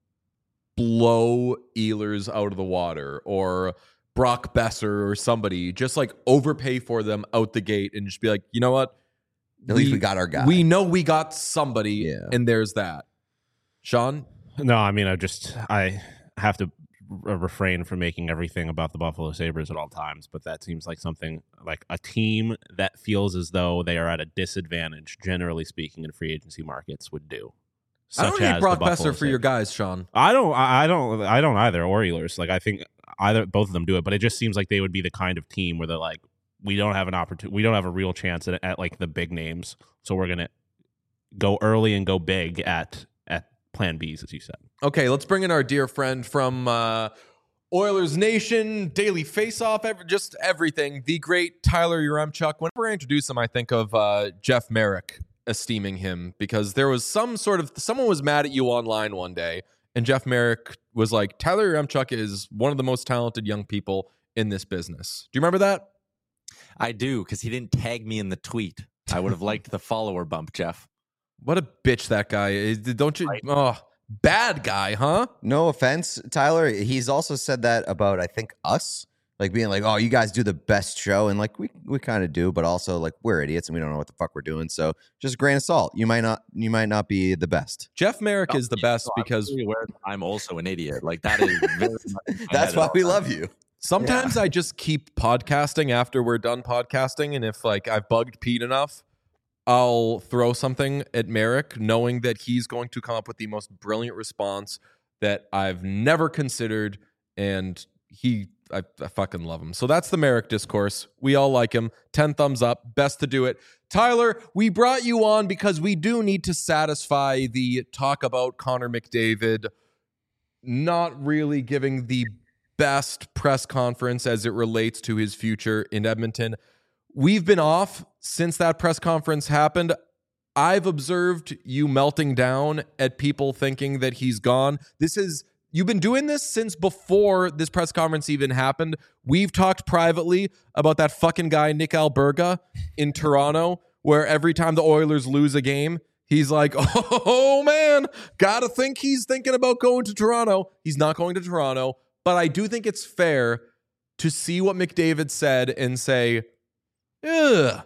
blow Ehlers out of the water or Brock Besser or somebody, just like overpay for them out the gate and just be like, you know what? At least we got our guy. We know we got somebody, Yeah. and there's that. Sean? No, I mean, I have to refrain from making everything about the Buffalo Sabres at all times, but that seems like something like a team that feels as though they are at a disadvantage, generally speaking, in free agency markets would do. I don't need Brock Besser for your guys, Sean. I don't either, or Ehlers. Like I think both of them do it, but it just seems like they would be the kind of team where they're like, we don't have an opportunity, we don't have a real chance at like the big names, so we're gonna go early and go big at Plan Bs, as you said. Okay, let's bring in our dear friend from Oilers Nation, Daily Faceoff, just everything. The great Tyler Yaremchuk. Whenever I introduce him, I think of Jeff Merrick, esteeming him, because there was someone was mad at you online one day, and Jeff Merrick was like, Tyler Yaremchuk is one of the most talented young people in this business. Do you remember that? I do, because he didn't tag me in the tweet. I would have liked the follower bump, Jeff. What a bitch that guy is. Don't you? Oh, bad guy, huh? No offense, Tyler. He's also said that about, I think, us. Like being like, oh, you guys do the best show. And like, we kind of do, but also like we're idiots and we don't know what the fuck we're doing. So just a grain of salt. You might not be the best. Jeff Merrick is the best because I'm, aware that I'm also an idiot. Like that is very much That's why we love you. sometimes I just keep podcasting after we're done podcasting. And if like I've bugged Pete enough, I'll throw something at Merrick knowing that he's going to come up with the most brilliant response that I've never considered. And I fucking love him. So that's the Merrick discourse. We all like him. 10 thumbs up. Best to do it. Tyler, we brought you on because we do need to satisfy the talk about Connor McDavid not really giving the best press conference as it relates to his future in Edmonton. We've been off since that press conference happened. I've observed you melting down at people thinking that he's gone. You've been doing this since before this press conference even happened. We've talked privately about that fucking guy, Nick Alberga, in Toronto. where every time the Oilers lose a game, he's like, oh man, gotta think he's thinking about going to Toronto. He's not going to Toronto, but I do think it's fair to see what McDavid said and say, ugh,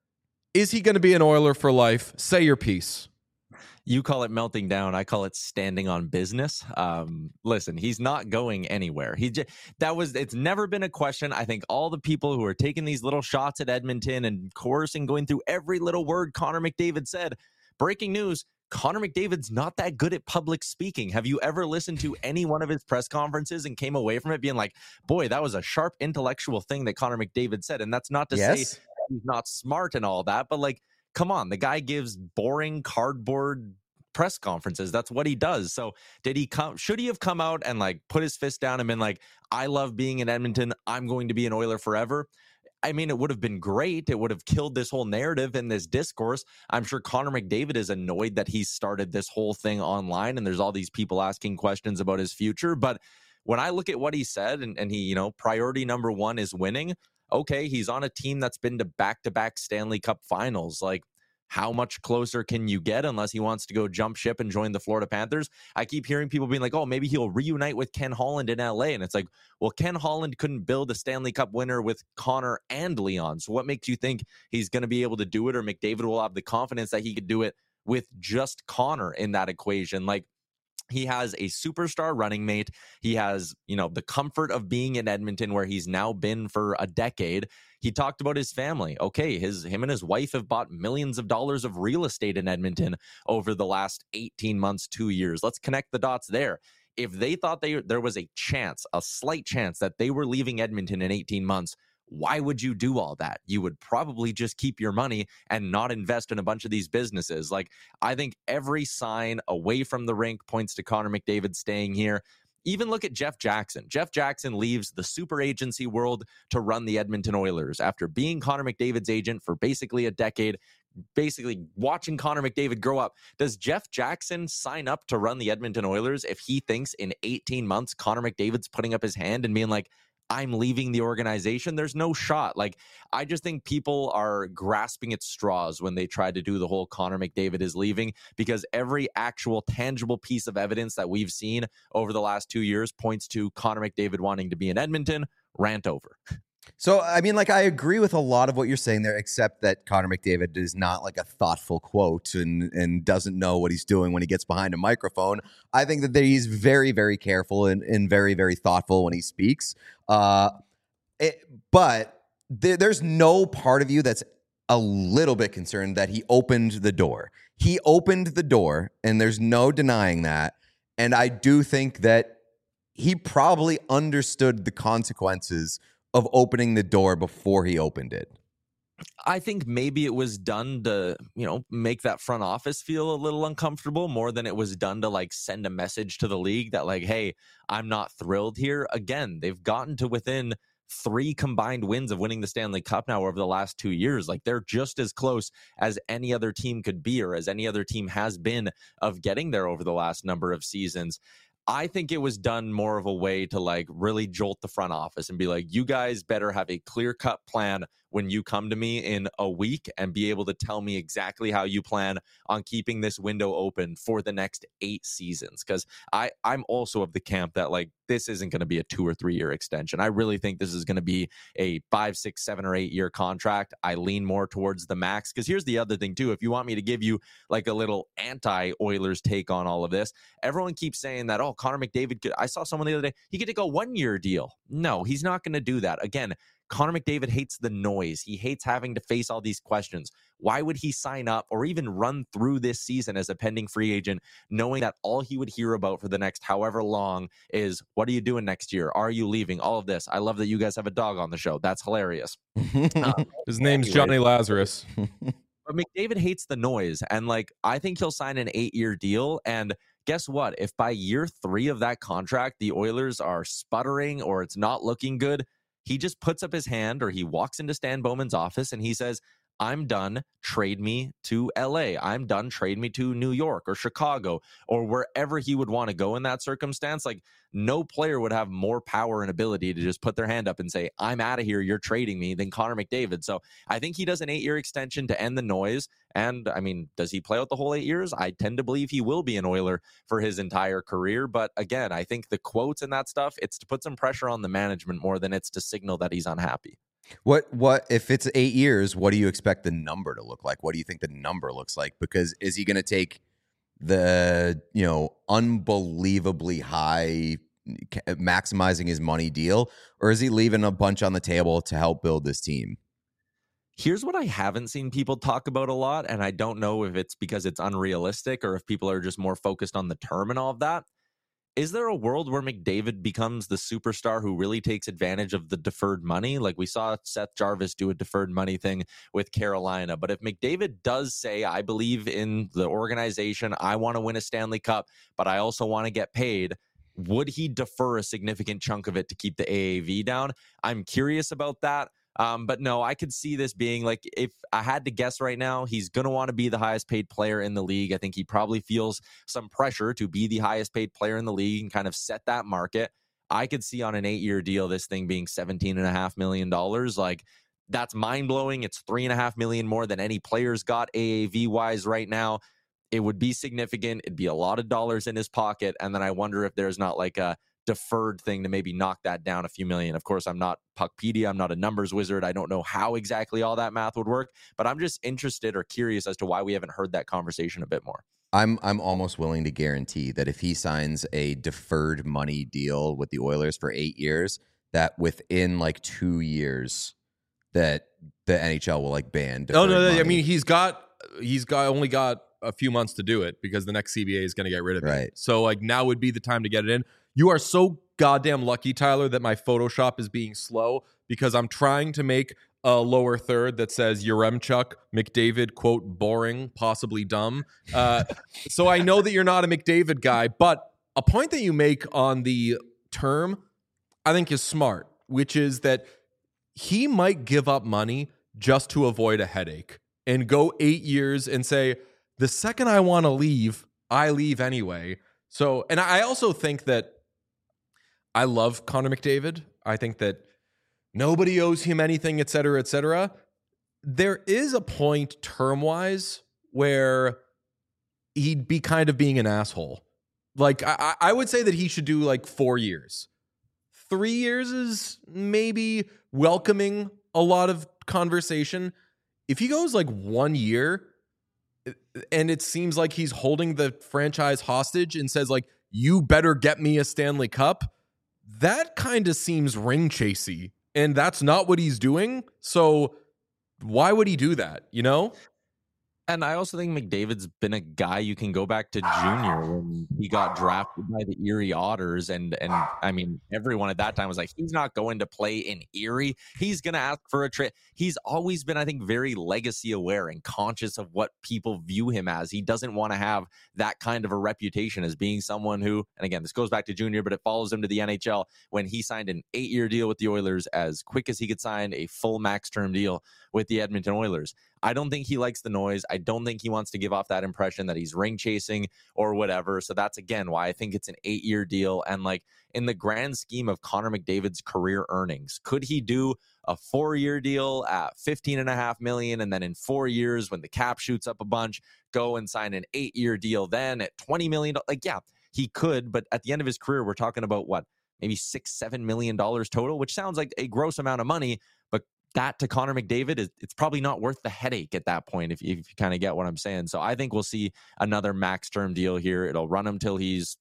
is he going to be an Oiler for life? Say your piece. You call it melting down. I call it standing on business. Listen, he's not going anywhere. It's never been a question. I think all the people who are taking these little shots at Edmonton and coercing, going through every little word Connor McDavid said. Breaking news, Connor McDavid's not that good at public speaking. Have you ever listened to any one of his press conferences and came away from it being like, boy, that was a sharp intellectual thing that Connor McDavid said? And that's not to say he's not smart and all that, but like, come on, the guy gives boring cardboard press conferences. That's what he does. So should he have come out and like put his fist down and been like, I love being in Edmonton, I'm going to be an Oiler forever? I mean, it would have been great. It would have killed this whole narrative and this discourse. I'm sure Connor McDavid is annoyed that he started this whole thing online and there's all these people asking questions about his future. But when I look at what he said and he, priority number one is winning. Okay, he's on a team that's been to back-to-back Stanley Cup finals. Like, how much closer can you get unless he wants to go jump ship and join the Florida Panthers? I keep hearing people being like, oh, maybe he'll reunite with Ken Holland in LA. And it's like, well, Ken Holland couldn't build a Stanley Cup winner with Connor and Leon. So what makes you think he's going to be able to do it, or McDavid will have the confidence that he could do it with just Connor in that equation? Like, he has a superstar running mate. He has, the comfort of being in Edmonton where he's now been for a decade. He talked about his family. Okay, him and his wife have bought millions of dollars of real estate in Edmonton over the last 18 months, 2 years. Let's connect the dots there. If they thought there was a slight chance that they were leaving Edmonton in 18 months, why would you do all that? You would probably just keep your money and not invest in a bunch of these businesses. Like, I think every sign away from the rink points to Connor McDavid staying here. Even look at Jeff Jackson. Jeff Jackson leaves the super agency world to run the Edmonton Oilers after being Connor McDavid's agent for basically a decade, basically watching Connor McDavid grow up. Does Jeff Jackson sign up to run the Edmonton Oilers if he thinks in 18 months Connor McDavid's putting up his hand and being like, I'm leaving the organization? There's no shot. Like, I just think people are grasping at straws when they try to do the whole Connor McDavid is leaving, because every actual tangible piece of evidence that we've seen over the last 2 years points to Connor McDavid wanting to be in Edmonton. Rant over. So, I mean, like, I agree with a lot of what you're saying there, except that Connor McDavid is not like a thoughtful quote and doesn't know what he's doing when he gets behind a microphone. I think that he's very, very careful and very, very thoughtful when he speaks. But there's no part of you that's a little bit concerned that he opened the door. He opened the door, and there's no denying that. And I do think that he probably understood the consequences of opening the door before he opened it. I think maybe it was done to, make that front office feel a little uncomfortable more than it was done to like send a message to the league that like, hey, I'm not thrilled here. Again, they've gotten to within 3 combined wins of winning the Stanley Cup now over the last 2 years. Like, they're just as close as any other team could be, or as any other team has been, of getting there over the last number of seasons. I think it was done more of a way to like really jolt the front office and be like, you guys better have a clear-cut plan when you come to me in a week and be able to tell me exactly how you plan on keeping this window open for the next 8 seasons. Because I'm also of the camp that like, this isn't going to be a 2 or 3 year extension. I really think this is going to be a 5, 6, 7, or 8 year contract. I lean more towards the max. Because here's the other thing too. If you want me to give you like a little anti-Oilers take on all of this, everyone keeps saying that, oh, Connor McDavid I saw someone the other day, he could take a 1-year deal. No, he's not going to do that. Again, Connor McDavid hates the noise. He hates having to face all these questions. Why would he sign up or even run through this season as a pending free agent, knowing that all he would hear about for the next however long is, what are you doing next year? Are you leaving? All of this. I love that you guys have a dog on the show. That's hilarious. His name's Johnny Lazarus. But McDavid hates the noise. And like, I think he'll sign an 8-year deal. And guess what? If by year 3 of that contract, the Oilers are sputtering or it's not looking good, he just puts up his hand, or he walks into Stan Bowman's office and he says, I'm done, trade me to LA. I'm done, trade me to New York or Chicago or wherever he would want to go in that circumstance. Like, no player would have more power and ability to just put their hand up and say, I'm out of here, you're trading me, than Connor McDavid. So I think he does an 8-year extension to end the noise. And I mean, does he play out the whole 8 years? I tend to believe he will be an Oiler for his entire career. But again, I think the quotes and that stuff, it's to put some pressure on the management more than it's to signal that he's unhappy. What if it's 8 years, what do you expect the number to look like? What do you think the number looks like? Because is he going to take the, unbelievably high maximizing his money deal, or is he leaving a bunch on the table to help build this team? Here's what I haven't seen people talk about a lot, and I don't know if it's because it's unrealistic or if people are just more focused on the term and all of that. Is there a world where McDavid becomes the superstar who really takes advantage of the deferred money? Like we saw Seth Jarvis do a deferred money thing with Carolina. But if McDavid does say, I believe in the organization, I want to win a Stanley Cup, but I also want to get paid, would he defer a significant chunk of it to keep the AAV down? I'm curious about that. But no, I could see this being like, if I had to guess right now, he's going to want to be the highest paid player in the league. I think he probably feels some pressure to be the highest paid player in the league and kind of set that market. I could see on an 8-year deal, this thing being $17.5 million. Like, that's mind blowing. It's $3.5 million more than any player's got AAV wise right now. It would be significant. It'd be a lot of dollars in his pocket. And then I wonder if there's not like a deferred thing to maybe knock that down a few million. Of course, I'm not Puckpedia. I'm not a numbers wizard. I don't know how exactly all that math would work, but I'm just interested or curious as to why we haven't heard that conversation a bit more. I'm almost willing to guarantee that if he signs a deferred money deal with the Oilers for 8 years, that within like 2 years that the NHL will like ban deferred money. I mean, he's only got a few months to do it because the next CBA is going to get rid of it. Right. So like now would be the time to get it in. You are so goddamn lucky, Tyler, that my Photoshop is being slow because I'm trying to make a lower third that says Yaremchuk, McDavid, quote, boring, possibly dumb. So I know that you're not a McDavid guy, but a point that you make on the term I think is smart, which is that he might give up money just to avoid a headache and go 8 years and say, the second I want to leave, I leave anyway. So, and I also think that I love Connor McDavid. I think that nobody owes him anything, et cetera, et cetera. There is a point term-wise where he'd be kind of being an asshole. Like, I would say that he should do like 4 years. 3 years is maybe welcoming a lot of conversation. If he goes like 1 year and it seems like he's holding the franchise hostage and says like, you better get me a Stanley Cup, that kind of seems ring chasey, and that's not what he's doing. So why would he do that? You know? And I also think McDavid's been a guy you can go back to junior when he got drafted by the Erie Otters. And I mean, everyone at that time was like, he's not going to play in Erie. He's going to ask for a trade. He's always been, I think, very legacy aware and conscious of what people view him as. He doesn't want to have that kind of a reputation as being someone who, and again, this goes back to junior, but it follows him to the NHL when he signed an 8-year deal with the Oilers as quick as he could sign a full max term deal with the Edmonton Oilers. I don't think he likes the noise. I don't think he wants to give off that impression that he's ring chasing or whatever. So that's, again, why I think it's an 8-year deal. And like in the grand scheme of Connor McDavid's career earnings, could he do a 4-year deal at $15.5 million and then in 4 years when the cap shoots up a bunch, go and sign an 8-year deal then at $20 million? Like, yeah, he could. But at the end of his career, we're talking about what? Maybe $6-7 million total, which sounds like a gross amount of money. But that to Connor McDavid, it's probably not worth the headache at that point, if you kind of get what I'm saying. So I think we'll see another max term deal here. It'll run him till he's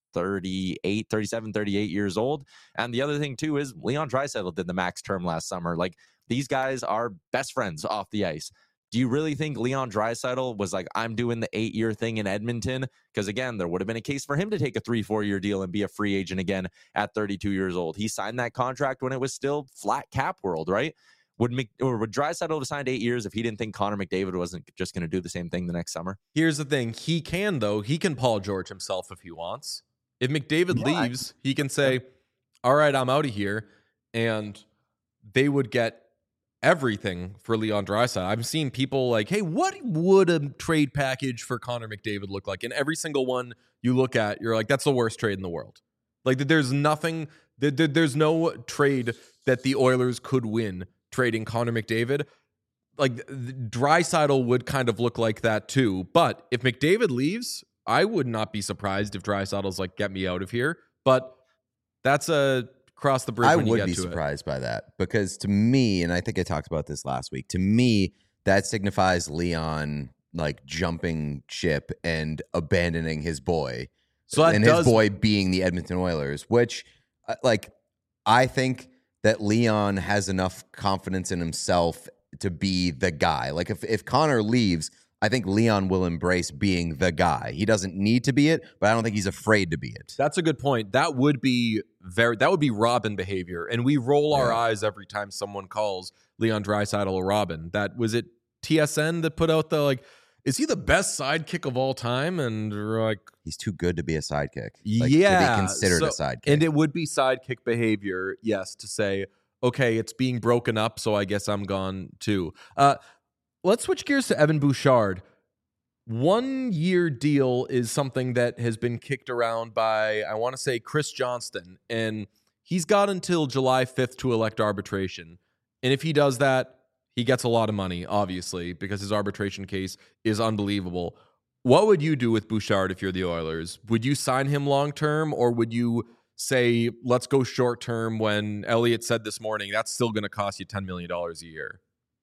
37, 38 years old. And the other thing too is Leon Draisaitl did the max term last summer. Like, these guys are best friends off the ice. Do you really think Leon Draisaitl was like, I'm doing the 8-year thing in Edmonton? Because again, there would have been a case for him to take a 3-4 year deal and be a free agent again at 32 years old. He signed that contract when it was still flat cap world, right? Would Draisaitl have signed 8 years if he didn't think Connor McDavid wasn't just going to do the same thing the next summer? Here's the thing. He can, though. He can Paul George himself if he wants. If McDavid leaves, he can say, all right, I'm out of here. And they would get everything for Leon Draisaitl. I'm seeing people like, hey, what would a trade package for Connor McDavid look like? And every single one you look at, you're like, that's the worst trade in the world. Like, there's nothing, there's no trade that the Oilers could win trading Connor McDavid. Like, Draisaitl would kind of look like that too. But if McDavid leaves, I would not be surprised if Draisaitl's like, get me out of here. But that's a cross the bridge. I when you would get be to surprised by that, because to me, and I think I talked about this last week, to me, that signifies Leon like jumping ship and abandoning his boy. So that and does, his boy being the Edmonton Oilers, which like I think that Leon has enough confidence in himself to be the guy. Like if Connor leaves, I think Leon will embrace being the guy. He doesn't need to be it, but I don't think he's afraid to be it. That's a good point. That would be Robin behavior. And we roll our eyes every time someone calls Leon Draisaitl a Robin. That was it. TSN that put out the like, is he the best sidekick of all time? And we're like, he's too good to be a sidekick. Yeah, to be considered a sidekick. And it would be sidekick behavior, yes, to say, okay, it's being broken up, so I guess I'm gone too. Let's switch gears to Evan Bouchard. 1 year deal is something that has been kicked around by, I want to say, Chris Johnston, and he's got until July 5th to elect arbitration. And if he does that, he gets a lot of money, obviously, because his arbitration case is unbelievable. What would you do with Bouchard if you're the Oilers? Would you sign him long-term, or would you say, let's go short-term when Elliott said this morning, that's still going to cost you $10 million a year?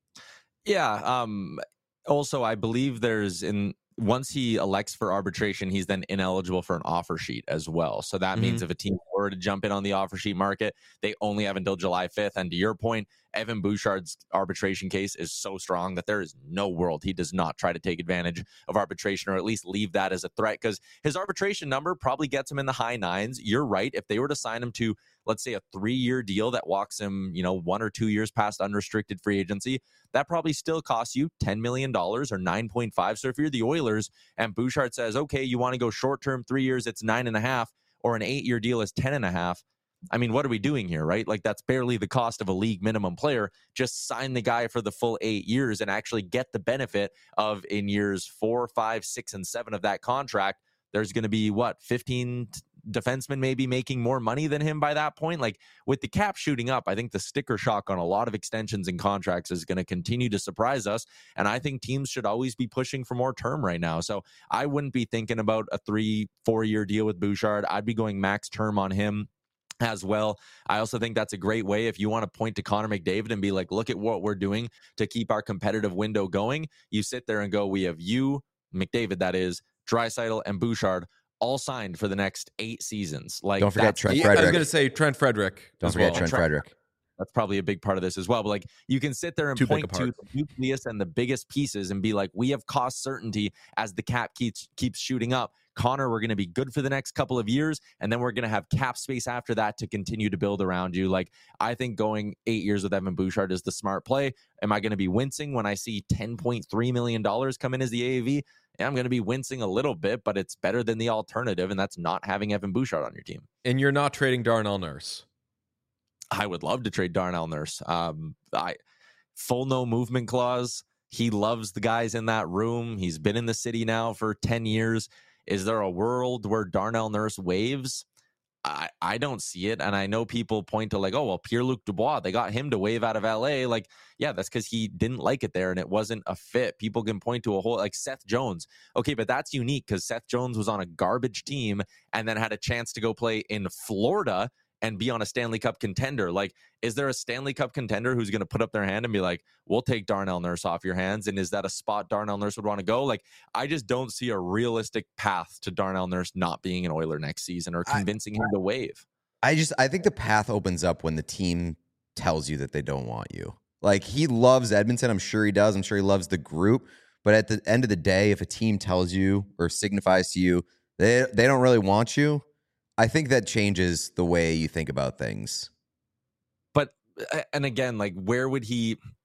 Yeah. Also, I believe once he elects for arbitration, he's then ineligible for an offer sheet as well. So that means if a team were to jump in on the offer sheet market, they only have until July 5th. And to your point, Evan Bouchard's arbitration case is so strong that there is no world he does not try to take advantage of arbitration, or at least leave that as a threat, because his arbitration number probably gets him in the high nines. You're right. If they were to sign him to, let's say, a 3-year deal that walks him, 1 or 2 years past unrestricted free agency, that probably still costs you $10 million or 9.5. So if you're the Oilers and Bouchard says, okay, you want to go short term, 3 years, it's 9.5, or an 8-year deal is 10.5. I mean, what are we doing here, right? Like, that's barely the cost of a league minimum player. Just sign the guy for the full 8 years and actually get the benefit of, in years 4, 5, 6, and 7 of that contract, there's going to be 15 defensemen maybe making more money than him by that point. Like, with the cap shooting up, I think the sticker shock on a lot of extensions and contracts is going to continue to surprise us. And I think teams should always be pushing for more term right now. So I wouldn't be thinking about a 3-4 year deal with Bouchard. I'd be going max term on him as well. I also think that's a great way if you want to point to Connor McDavid and be like, look at what we're doing to keep our competitive window going. You sit there and go, we have you, McDavid, that is, Draisaitl, and Bouchard all signed for the next 8 seasons. Like, don't forget Trent Frederick. I was going to say Trent Frederick. Don't forget Trent Frederick. That's probably a big part of this as well. But like, you can sit there and point to the nucleus and the biggest pieces and be like, we have cost certainty as the cap keeps shooting up. Connor, we're going to be good for the next couple of years, and then we're going to have cap space after that to continue to build around you. Like, I think going 8 years with Evan Bouchard is the smart play. Am I going to be wincing when I see $10.3 million come in as the AAV? Yeah, I'm going to be wincing a little bit, but it's better than the alternative, and that's not having Evan Bouchard on your team. And you're not trading Darnell Nurse. I would love to trade Darnell Nurse. Full no movement clause. He loves the guys in that room. He's been in the city now for 10 years. Is there a world where Darnell Nurse waves? I don't see it. And I know people point to like, oh, well, Pierre-Luc Dubois, they got him to wave out of LA. Like, yeah, that's because he didn't like it there and it wasn't a fit. People can point to a whole, like Seth Jones. Okay, but that's unique because Seth Jones was on a garbage team and then had a chance to go play in Florida and be on a Stanley Cup contender. Like, is there a Stanley Cup contender who's going to put up their hand and be like, we'll take Darnell Nurse off your hands? And is that a spot Darnell Nurse would want to go? Like, I just don't see a realistic path to Darnell Nurse not being an Oiler next season or convincing him to waive. I think the path opens up when the team tells you that they don't want you. Like, he loves Edmonton. I'm sure he does. I'm sure he loves the group. But at the end of the day, if a team tells you or signifies to you they don't really want you, I think that changes the way you think about things. But, and again, like, where would he,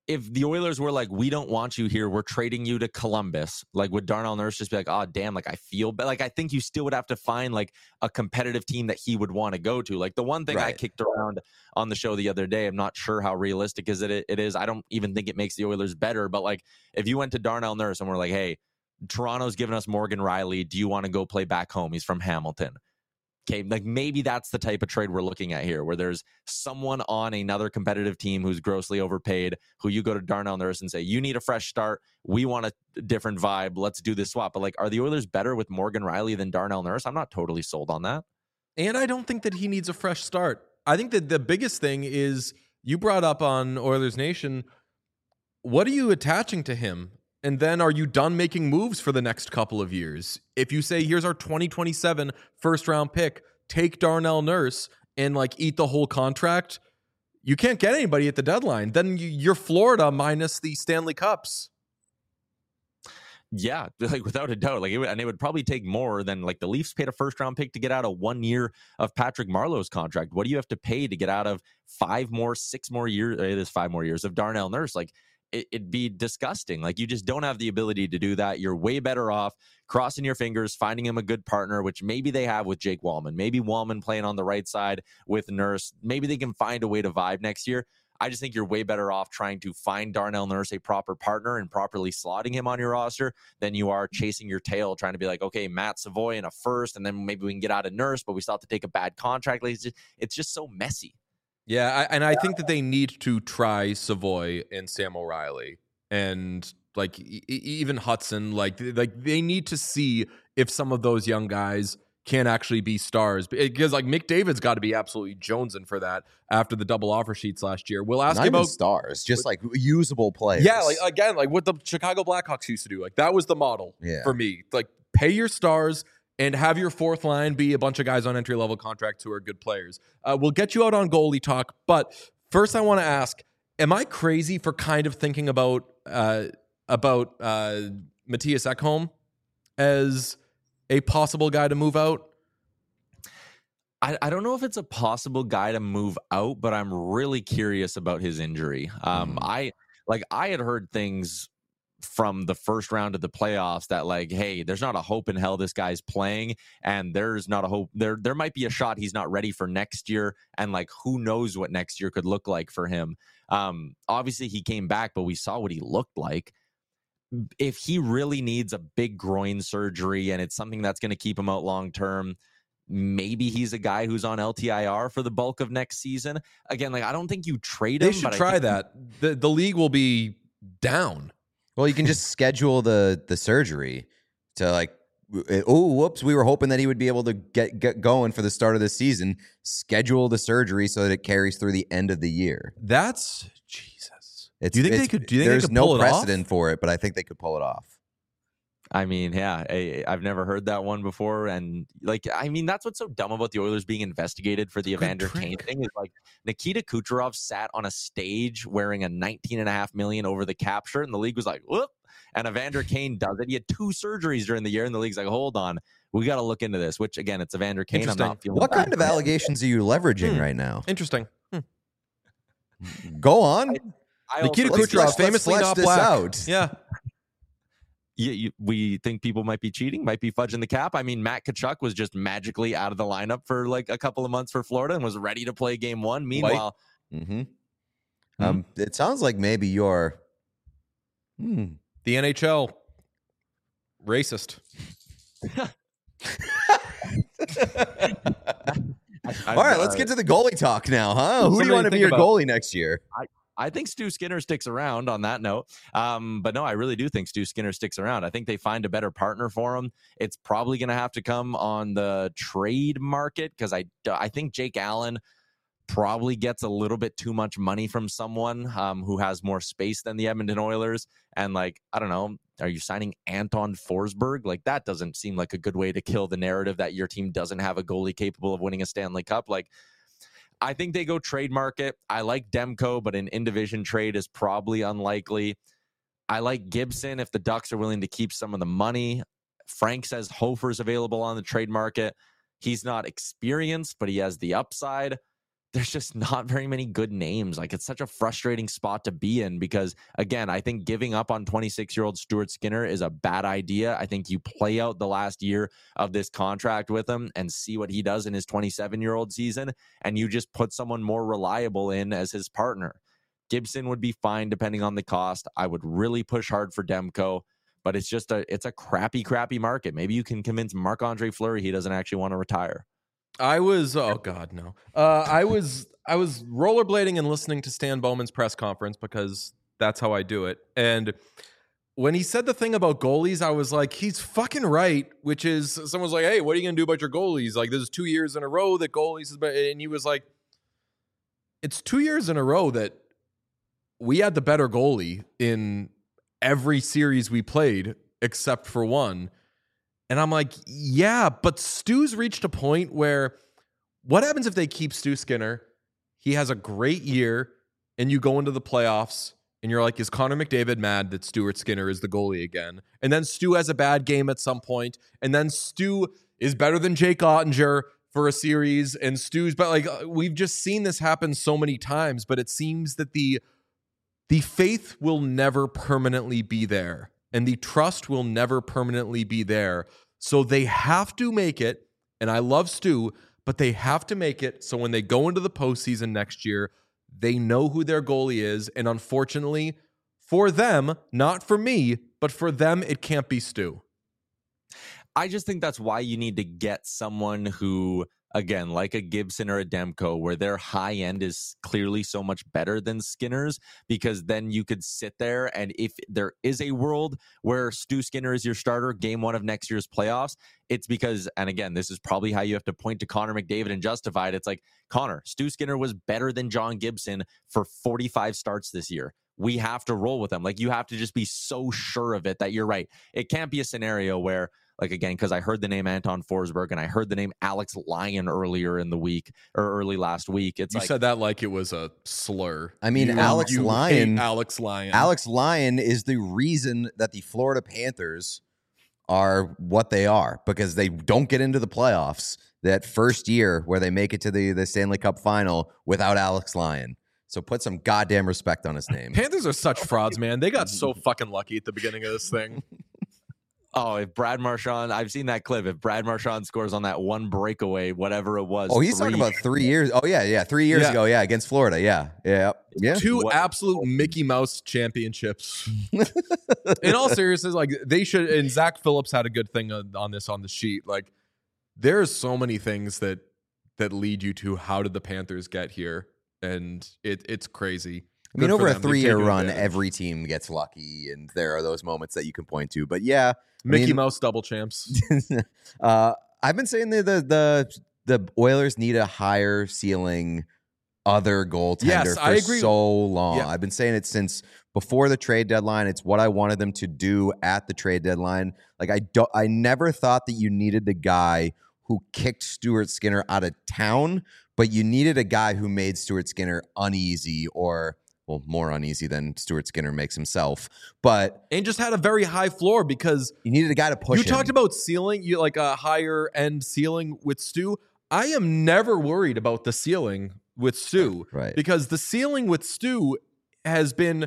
if the Oilers were like, we don't want you here, we're trading you to Columbus, like would Darnell Nurse just be like, oh damn, like I feel bad? Like I think you still would have to find like a competitive team that he would want to go to. Like the one thing I kicked around on the show the other day, I'm not sure how realistic it is. I don't even think it makes the Oilers better, but like if you went to Darnell Nurse and we're like, hey, Toronto's giving us Morgan Rielly, do you want to go play back home? He's from Hamilton. Okay, like maybe that's the type of trade we're looking at here, where there's someone on another competitive team who's grossly overpaid, who you go to Darnell Nurse and say, you need a fresh start. We want a different vibe. Let's do this swap. But like, are the Oilers better with Morgan Rielly than Darnell Nurse? I'm not totally sold on that. And I don't think that he needs a fresh start. I think that the biggest thing is you brought up on Oilers Nation, what are you attaching to him? And then are you done making moves for the next couple of years? If you say, here's our 2027 first round pick, take Darnell Nurse and like eat the whole contract, you can't get anybody at the deadline. Then you're Florida minus the Stanley Cups. Yeah, like without a doubt. Like it would probably take more than like the Leafs paid a first round pick to get out of 1 year of Patrick Marleau's contract. What do you have to pay to get out of 6 more years? It is 5 more years of Darnell Nurse. Like it'd be disgusting. Like you just don't have the ability to do that. You're way better off crossing your fingers, finding him a good partner, which maybe they have with Jake Wallman. Maybe Wallman playing on the right side with Nurse. Maybe they can find a way to vibe next year. I just think you're way better off trying to find Darnell Nurse a proper partner and properly slotting him on your roster than you are chasing your tail, trying to be like, okay, Matt Savoy in a first, and then maybe we can get out of Nurse, but we still have to take a bad contract. Like it's just so messy. Yeah, I think that they need to try Savoy and Sam O'Reilly and like even Hudson. Like they need to see if some of those young guys can actually be stars, because like McDavid's got to be absolutely jonesing for that after the double offer sheets last year. We'll ask Not you about even stars, just like usable players. Yeah, like again, like what the Chicago Blackhawks used to do. Like that was the model for me. Like pay your stars and have your fourth line be a bunch of guys on entry-level contracts who are good players. We'll get you out on goalie talk, but first I want to ask, am I crazy for kind of thinking about Matthias Ekholm as a possible guy to move out? I don't know if it's a possible guy to move out, but I'm really curious about his injury. I had heard things from the first round of the playoffs that like, hey, there's not a hope in hell this guy's playing, and there's not a hope there might be a shot he's not ready for next year, and like who knows what next year could look like for him. Obviously he came back, but we saw what he looked like. If he really needs a big groin surgery and it's something that's going to keep him out long term, maybe he's a guy who's on LTIR for the bulk of next season. Again, like I don't think you trade him. They should try that. The league will be down. Well, you can just schedule the surgery to like, oh, whoops, we were hoping that he would be able to get going for the start of the season. Schedule the surgery so that it carries through the end of the year. That's Jesus. Do you think they could? Do you think there's they could pull no it off? precedent for it, but I think they could pull it off. I mean, yeah, I've never heard that one before. And like, I mean, that's what's so dumb about the Oilers being investigated for the Evander Kane thing is like Nikita Kucherov sat on a stage wearing a $19.5 million over the cap shirt, and the league was like, whoop. And Evander Kane does it. He had 2 surgeries during the year, and the league's like, hold on, we got to look into this, which again, it's Evander Kane. I'm not feeling what kind of allegations are you leveraging right now? Interesting. Go on. Nikita Kucherov famously not black. Out. Yeah. We think people might be cheating, might be fudging the cap. I mean, Matt Tkachuk was just magically out of the lineup for like a couple of months for Florida and was ready to play game 1. Meanwhile, it sounds like maybe you're the NHL racist. All right, let's get to the goalie talk now, huh? Who do you want to be your goalie next year? I think Stu Skinner sticks around on that note. But no, I really do think Stu Skinner sticks around. I think they find a better partner for him. It's probably going to have to come on the trade market because I think Jake Allen probably gets a little bit too much money from someone who has more space than the Edmonton Oilers. And like, I don't know, are you signing Anton Forsberg? Like that doesn't seem like a good way to kill the narrative that your team doesn't have a goalie capable of winning a Stanley Cup. Like, I think they go trade market. I like Demko, but an in-division trade is probably unlikely. I like Gibson if the Ducks are willing to keep some of the money. Frank says Hofer's available on the trade market. He's not experienced, but he has the upside. there's just not very many good names. Like, it's such a frustrating spot to be in because, again, I think giving up on 26-year-old Stuart Skinner is a bad idea. I think you play out the last year of this contract with him and see what he does in his 27-year-old season, and you just put someone more reliable in as his partner. Gibson would be fine depending on the cost. I would really push hard for Demko, but it's a crappy market. Maybe you can convince Marc-Andre Fleury he doesn't actually want to retire. I was I was rollerblading and listening to Stan Bowman's press conference because that's how I do it. And when he said the thing about goalies, I was like, he's fucking right. Which is, someone's like, hey, what are you gonna do about your goalies? Like, this is 2 years in a row that goalies has been, and he was like, it's 2 years in a row that we had the better goalie in every series we played except for one. And I'm like, yeah, but Stu's reached a point where what happens if they keep Stu Skinner? He has a great year and you go into the playoffs and you're like, is Connor McDavid mad that Stuart Skinner is the goalie again? And then Stu has a bad game at some point, and then Stu is better than Jake Ottinger for a series, and Stu's, but like, we've just seen this happen so many times, but it seems that the faith will never permanently be there. And the trust will never permanently be there. So they have to make it, and I love Stu, but they have to make it so when they go into the postseason next year, they know who their goalie is. And unfortunately, for them, not for me, but for them, it can't be Stu. I just think that's why you need to get someone who, again, like a Gibson or a Demko, where their high end is clearly so much better than Skinner's, because then you could sit there, and if there is a world where Stu Skinner is your starter game one of next year's playoffs, it's because, and again, this is probably how you have to point to Connor McDavid and justify it. It's like, Connor, Stu Skinner was better than John Gibson for 45 starts this year. We have to roll with them. Like, you have to just be so sure of it that you're right. It can't be a scenario where, like, again, because I heard the name Anton Forsberg and I heard the name Alex Lyon earlier in the week or early last week. It's you said that like it was a slur. I mean, Alex Lyon is the reason that the Florida Panthers are what they are, because they don't get into the playoffs that first year where they make it to the Stanley Cup final without Alex Lyon. So put some goddamn respect on his name. Panthers are such frauds, man. They got so fucking lucky at the beginning of this thing. Oh, if Brad Marchand, I've seen that clip. If Brad Marchand scores on that one breakaway, whatever it was. Oh, he's talking about 3 years. Oh, yeah. 3 years ago. Yeah. Against Florida. Yeah. Two absolute Mickey Mouse championships. In all seriousness, like, they should, and Zach Phillips had a good thing on the sheet. Like, there's so many things that lead you to how did the Panthers get here? And it's crazy. I mean, over a 3-year run, every team gets lucky, and there are those moments that you can point to. But yeah, Mickey Mouse double champs. I've been saying the Oilers need a higher ceiling other goaltender for I agree. so long. Yeah. I've been saying it since before the trade deadline. It's what I wanted them to do at the trade deadline. Like, I never thought that you needed the guy who kicked Stuart Skinner out of town, but you needed a guy who made Stuart Skinner uneasy, or, well, more uneasy than Stuart Skinner makes himself. And just had a very high floor, because you needed a guy to push him. You talked about ceiling, you like a higher end ceiling with Stu. I am never worried about the ceiling with Stu. Right. Because the ceiling with Stu has been,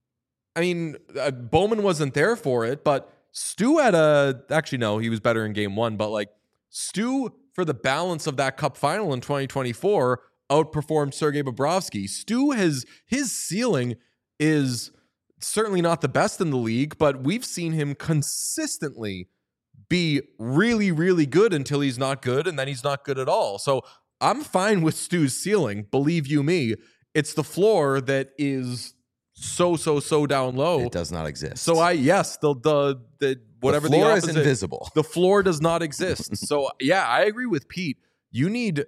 I mean, Bowman wasn't there for it, but Stu had actually, no, he was better in game one, but like, Stu, for the balance of that cup final in 2024, outperformed Sergei Bobrovsky. Stu his ceiling is certainly not the best in the league, but we've seen him consistently be really, really good until he's not good, and then he's not good at all. So I'm fine with Stu's ceiling, believe you me. It's the floor that is so down low. It does not exist. So the whatever the floor is invisible. The floor does not exist. So yeah, I agree with Pete. You need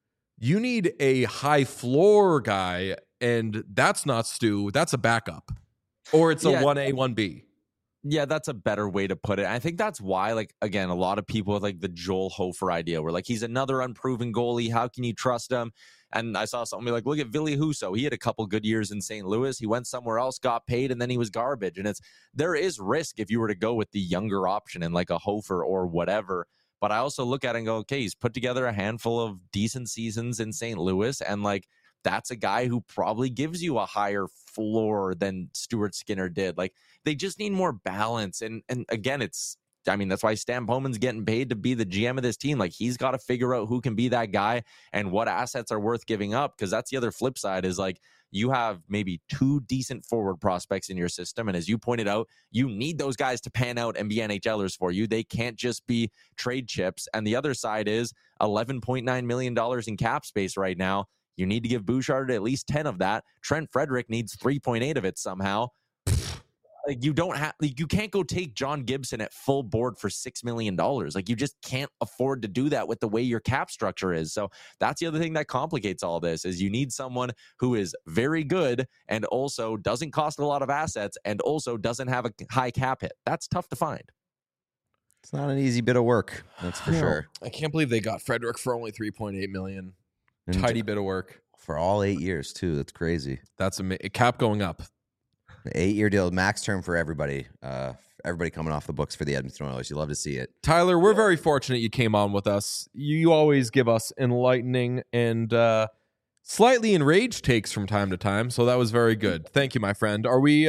a high floor guy, and that's not Stu. That's a backup, or it's a 1A, 1B. Yeah, that's a better way to put it. I think that's why, like, again, a lot of people with like the Joel Hofer idea, where like, he's another unproven goalie. How can you trust him? And I saw something like, look at Ville Husso. He had a couple good years in St. Louis. He went somewhere else, got paid, and then he was garbage. And there is risk if you were to go with the younger option and like a Hofer or whatever. But I also look at it and go, okay, he's put together a handful of decent seasons in St. Louis, and like that's a guy who probably gives you a higher floor than Stuart Skinner did. Like they just need more balance. And again, that's why Stan Bowman's getting paid to be the GM of this team. Like he's got to figure out who can be that guy and what assets are worth giving up. Because that's the other flip side is like you have maybe 2 decent forward prospects in your system. And as you pointed out, you need those guys to pan out and be NHLers for you. They can't just be trade chips. And the other side is $11.9 million in cap space right now. You need to give Bouchard at least 10 of that. Trent Frederick needs 3.8 of it somehow. Like you can't go take John Gibson at full board for $6 million. Like you just can't afford to do that with the way your cap structure is. So that's the other thing that complicates all this is you need someone who is very good and also doesn't cost a lot of assets and also doesn't have a high cap hit. That's tough to find. It's not an easy bit of work. That's for sure. I can't believe they got Frederick for only $3.8 million. And Tidy bit of work for all 8 years too. That's crazy. That's a cap going up. 8-year deal, max term for everybody. Everybody coming off the books for the Edmonton Oilers. You love to see it. Tyler, we're very fortunate you came on with us. You always give us enlightening and slightly enraged takes from time to time, so that was very good. Thank you, my friend. Are we?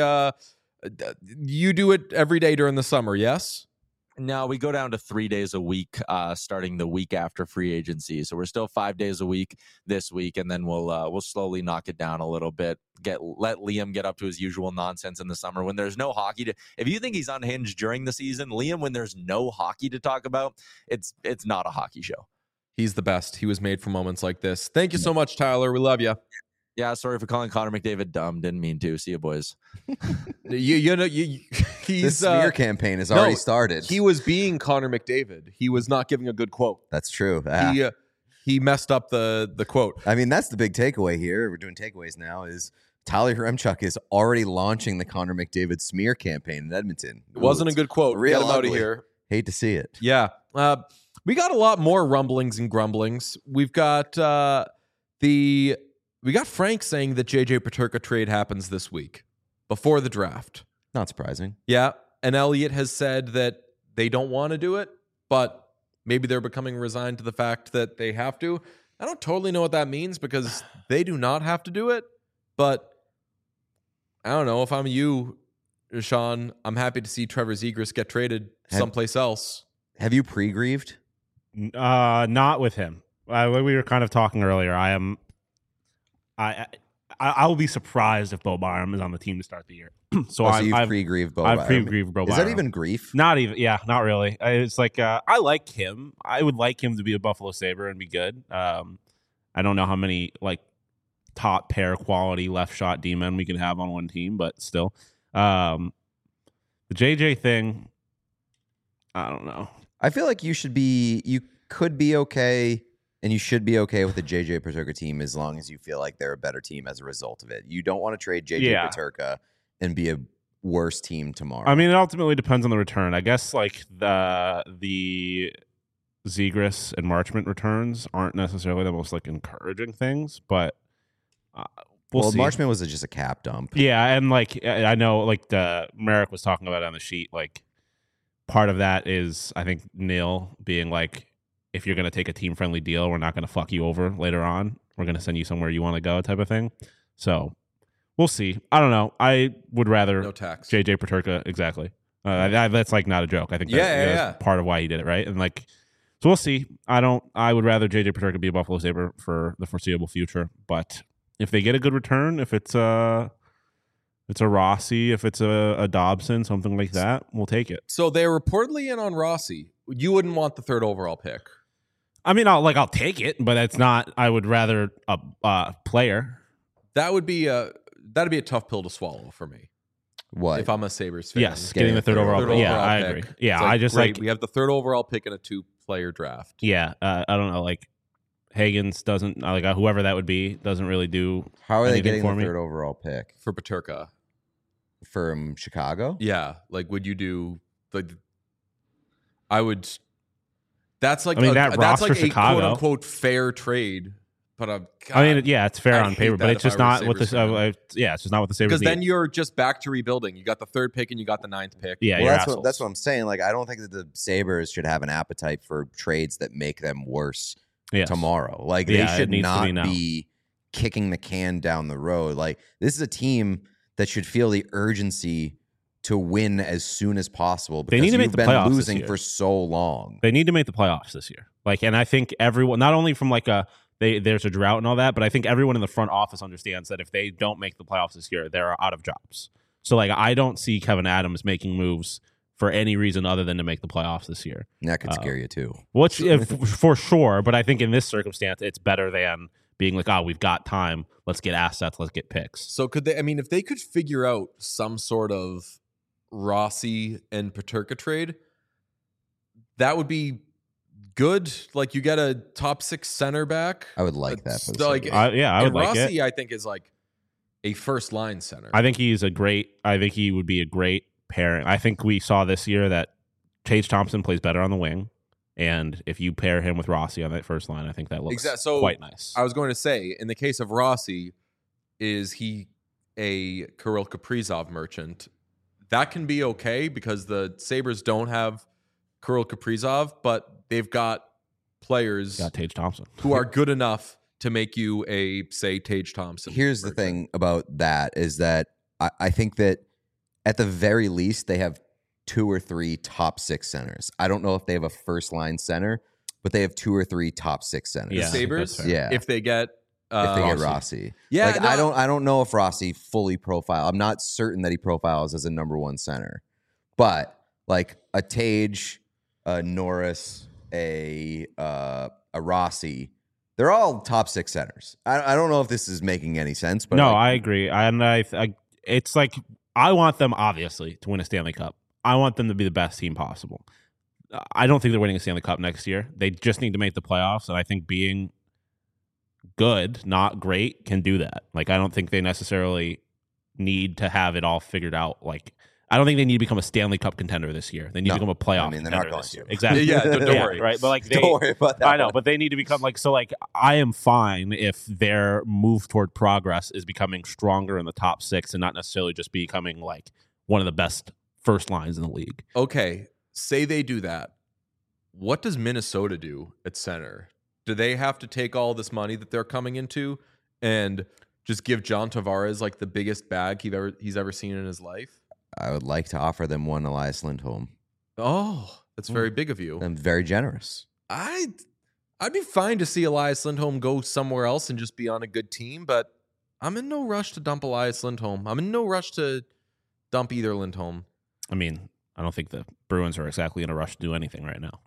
You do it every day during the summer, yes? No, we go down to 3 days a week, starting the week after free agency. So we're still 5 days a week this week, and then we'll slowly knock it down a little bit. Let Liam get up to his usual nonsense in the summer when there's no hockey. If you think he's unhinged during the season, Liam, when there's no hockey to talk about, it's not a hockey show. He's the best. He was made for moments like this. Thank you so much, Tyler. We love you. Yeah, sorry for calling Connor McDavid dumb. Didn't mean to. See you, boys. He's The smear campaign has already started. He was being Connor McDavid. He was not giving a good quote. That's true. He messed up the quote. I mean, that's the big takeaway here. We're doing takeaways now. Is Tyler Yaremchuk is already launching the Connor McDavid smear campaign in Edmonton. It wasn't a good quote. Real Get him out of ugly. here. Hate to see it. Yeah. We got a lot more rumblings and grumblings. We've got we got Frank saying that JJ Peterka trade happens this week before the draft. Not surprising. Yeah. And Elliott has said that they don't want to do it, but maybe they're becoming resigned to the fact that they have to. I don't totally know what that means because they do not have to do it, but I don't know. If I'm you, Sean, I'm happy to see Trevor Zegras get traded someplace else. Have you pre-grieved? Not with him. We were kind of talking earlier. I will be surprised if Bo Byram is on the team to start the year. So you've pre-grieved Bo Byram. I've pre-grieved Bo Byram. Is that even grief? Not even. Yeah, not really. It's like I like him. I would like him to be a Buffalo Sabre and be good. I don't know how many like top pair quality left shot D-men we can have on one team, but still, the JJ thing. I don't know. I feel like you could be okay, and you should be okay with the JJ Peterka team as long as you feel like they're a better team as a result of it. You don't want to trade JJ Peterka and be a worse team tomorrow. I mean, it ultimately depends on the return. I guess like the Zegras and Marchment returns aren't necessarily the most like encouraging things, but we'll see. Marchment was just a cap dump. Yeah, and like I know like Merrick was talking about it on the sheet, like part of that is I think Neil being like, if you're going to take a team-friendly deal, we're not going to fuck you over later on. We're going to send you somewhere you want to go type of thing. So we'll see. I don't know. I would rather No tax. JJ Peterka. Exactly. That's like not a joke. I think that's part of why he did it, right? And like, so we'll see. I would rather JJ Peterka be a Buffalo Sabre for the foreseeable future. But if they get a good return, if it's a Rossi, if it's a Dobson, something like that, we'll take it. So they're reportedly in on Rossi. You wouldn't want the 3rd overall pick. I mean, I'll take it, but it's not. I would rather a player. That'd be a tough pill to swallow for me. What? If I'm a Sabres fan? Yes, getting the 3rd overall pick. Yeah, I agree. Yeah, like, I just great. like We have the 3rd overall pick in a 2-player draft. Yeah, I don't know. Like Higgins doesn't like whoever that would be doesn't really do. How are they getting the for me. 3rd overall pick For Peterka. from Chicago? Yeah, like would you do like? I would. That's like I mean, that that's roster like Chicago. a quote unquote fair trade But I mean, yeah, it's fair I'd on hate paper, but that it's if just I were not the what the Sabres fan. it's just not what the Sabres because need. then you're just back to rebuilding. You got the 3rd pick and you got the 9th pick. Yeah, Well, you're that's assholes. that's what I'm saying. Like, I don't think that the Sabres should have an appetite for trades that make them worse Yes. tomorrow. Like, Yeah, they it should needs to be not now. be kicking the can down the road. Like, this is a team that should feel the urgency to win as soon as possible because need to make you've the been playoffs this losing year. for so long. They need to make the playoffs this year. Like, and I think everyone, not only from like there's a drought and all that, but I think everyone in the front office understands that if they don't make the playoffs this year, they're out of jobs. So like, I don't see Kevin Adams making moves for any reason other than to make the playoffs this year. And that could scare you too. Which, for sure, but I think in this circumstance, it's better than being like, oh, we've got time. Let's get assets. Let's get picks. So could they? I mean, if they could figure out some sort of Rossi and Peterka trade, that would be good. Like, you get a top 6 center back. I would like that. For the Like, Sabres. I would and like it. Rossi, I think, is like a first line center. I think he would be a great pairing. I think we saw this year that Tage Thompson plays better on the wing. And if you pair him with Rossi on that first line, I think that looks So quite nice. I was going to say, in the case of Rossi, is he a Kirill Kaprizov merchant? That can be okay because the Sabres don't have Kirill Kaprizov, but they've got players Got Tage Thompson. who are good enough to make you a, say, Tage Thompson. Here's the merchant. thing about that is that I think that at the very least they have 2 or 3 top 6 centers. I don't know if they have a first line center, but they have 2 or 3 top 6 centers. The Yeah, I think Sabres, that's fair. Yeah. if they get If they get Rossi. Yeah, Like, no, I don't know if Rossi fully profile. I'm not certain that he profiles as a number 1 center. But like a Tage, a Norris, a Rossi, they're all top 6 centers. I don't know if this is making any sense, but No, like, I agree. And it's like, I want them obviously to win a Stanley Cup. I want them to be the best team possible. I don't think they're winning a Stanley Cup next year. They just need to make the playoffs. And I think being good, not great, can do that. Like, I don't think they necessarily need to have it all figured out. Like, I don't think they need to become a Stanley Cup contender this year. They need No. to become a playoff I mean, they're not contender going this year. to. Exactly. Yeah, don't worry. Right. But like, they, don't worry about that. I know, one. but they need to become like, so like, I am fine if their move toward progress is becoming stronger in the top 6 and not necessarily just becoming like one of the best first lines in the league. Okay, say they do that. What does Minnesota do at center? Do they have to take all this money that they're coming into and just give John Tavares like the biggest bag he's ever seen in his life? I would like to offer them one Elias Lindholm. Oh, that's very big of you. I'm very generous. I'd be fine to see Elias Lindholm go somewhere else and just be on a good team, but I'm in no rush to dump Elias Lindholm. I'm in no rush to dump either Lindholm. I mean, I don't think the Bruins are exactly in a rush to do anything right now.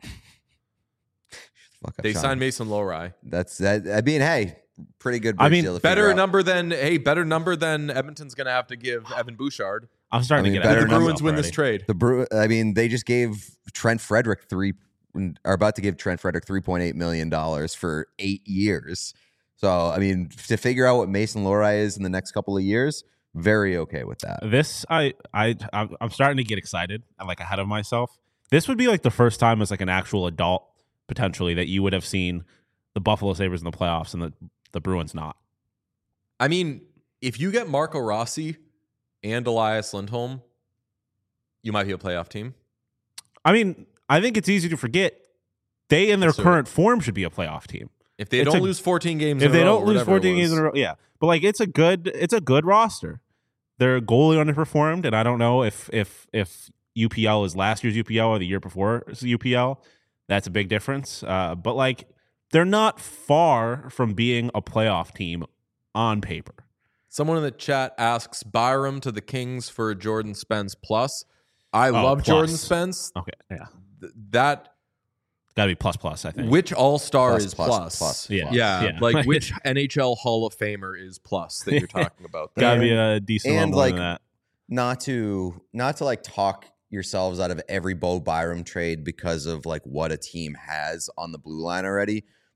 Fuck up, They Sean. signed Mason Lowry. That's that. I mean, hey, pretty good. I bridge mean, deal to figure Better out. number than Edmonton's going to have to give Evan Bouchard. I'm starting I mean, to get better Did the ahead of Bruins myself win this already. trade? I mean, they just gave Trent Frederick are about to give Trent Frederick $3.8 million for 8 years. So, I mean, to figure out what Mason Lowry is in the next couple of years, very okay with that. This I'm starting to get excited. I'm like ahead of myself. This would be like the first time as like an actual adult potentially that you would have seen the Buffalo Sabres in the playoffs and the Bruins not. I mean, if you get Marco Rossi and Elias Lindholm, you might be a playoff team. I mean, I think it's easy to forget they in their So- current form should be a playoff team. If they It's don't a- lose 14 games If in they a row, don't lose whatever it 14 games was. in a row, yeah. But like it's a good roster. Their goalie underperformed, and I don't know if UPL is last year's UPL or the year before UPL. That's a big difference. But like they're not far from being a playoff team on paper. Someone in the chat asks Byram to the Kings for Jordan Spence plus. I love plus. Jordan Spence. Okay, yeah, That got to be plus. I think. which All-Star Plus, is plus, plus? plus, Yeah. Yeah, Yeah. like which NHL Hall of Famer is plus that you're talking about? Got to And- be a decent and, amount more like, than that. Not to like talk yourselves out of every Bo Byram trade because of like what a team has on the blue line already.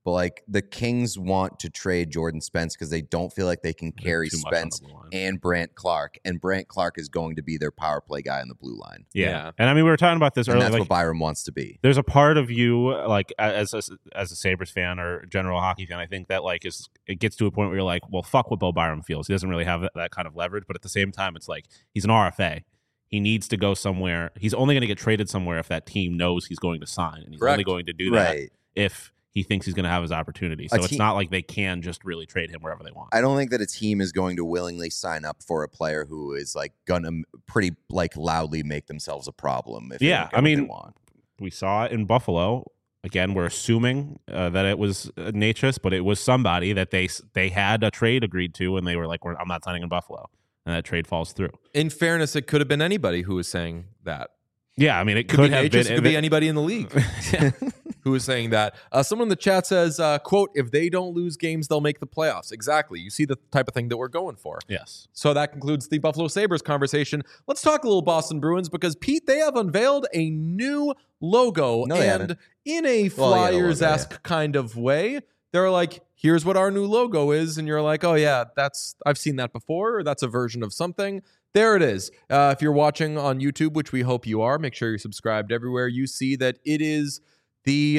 but like the Kings want to trade Jordan Spence because they don't feel like they can carry too much on the Spence blue line. and Brant Clark, and Brant Clark is going to be their power play guy on the blue line. Yeah. And I mean, we were talking about this And earlier. that's Like, what Byram wants to be. there's a part of you, like as a Sabres fan or general hockey fan, I think that like it gets to a point where you're like, well, fuck what Bo Byram feels. He doesn't really have that kind of leverage, but at the same time, it's like he's an RFA. He needs to go somewhere. He's only going to get traded somewhere if that team knows he's going to sign, and he's only going to do that Right. if he thinks he's going to have his opportunity. So it's not like they can just really trade him wherever they want. I don't think that a team is going to willingly sign up for a player who is like gonna pretty like loudly make themselves a problem. If they don't get what they want. We saw it in Buffalo. Again, we're assuming that it was Natchez, but it was somebody that they had a trade agreed to, and they were like, "I'm not signing in Buffalo," and that trade falls through. In fairness, it could have been anybody who was saying that. Yeah, I mean, it Could could be have Natchez, been. it could be anybody in the league who is saying that. Someone in the chat says, quote, if they don't lose games, they'll make the playoffs. Exactly. You see the type of thing that we're going for. Yes. So that concludes the Buffalo Sabres conversation. Let's talk a little Boston Bruins because, Pete, they have unveiled a new logo. No, they and haven't. in a Flyers-esque kind of way, they're like, here's what our new logo is. And you're like, oh, yeah, I've seen that before. Or that's a version of something. There it is. If you're watching on YouTube, which we hope you are, make sure you're subscribed everywhere. You see that it is the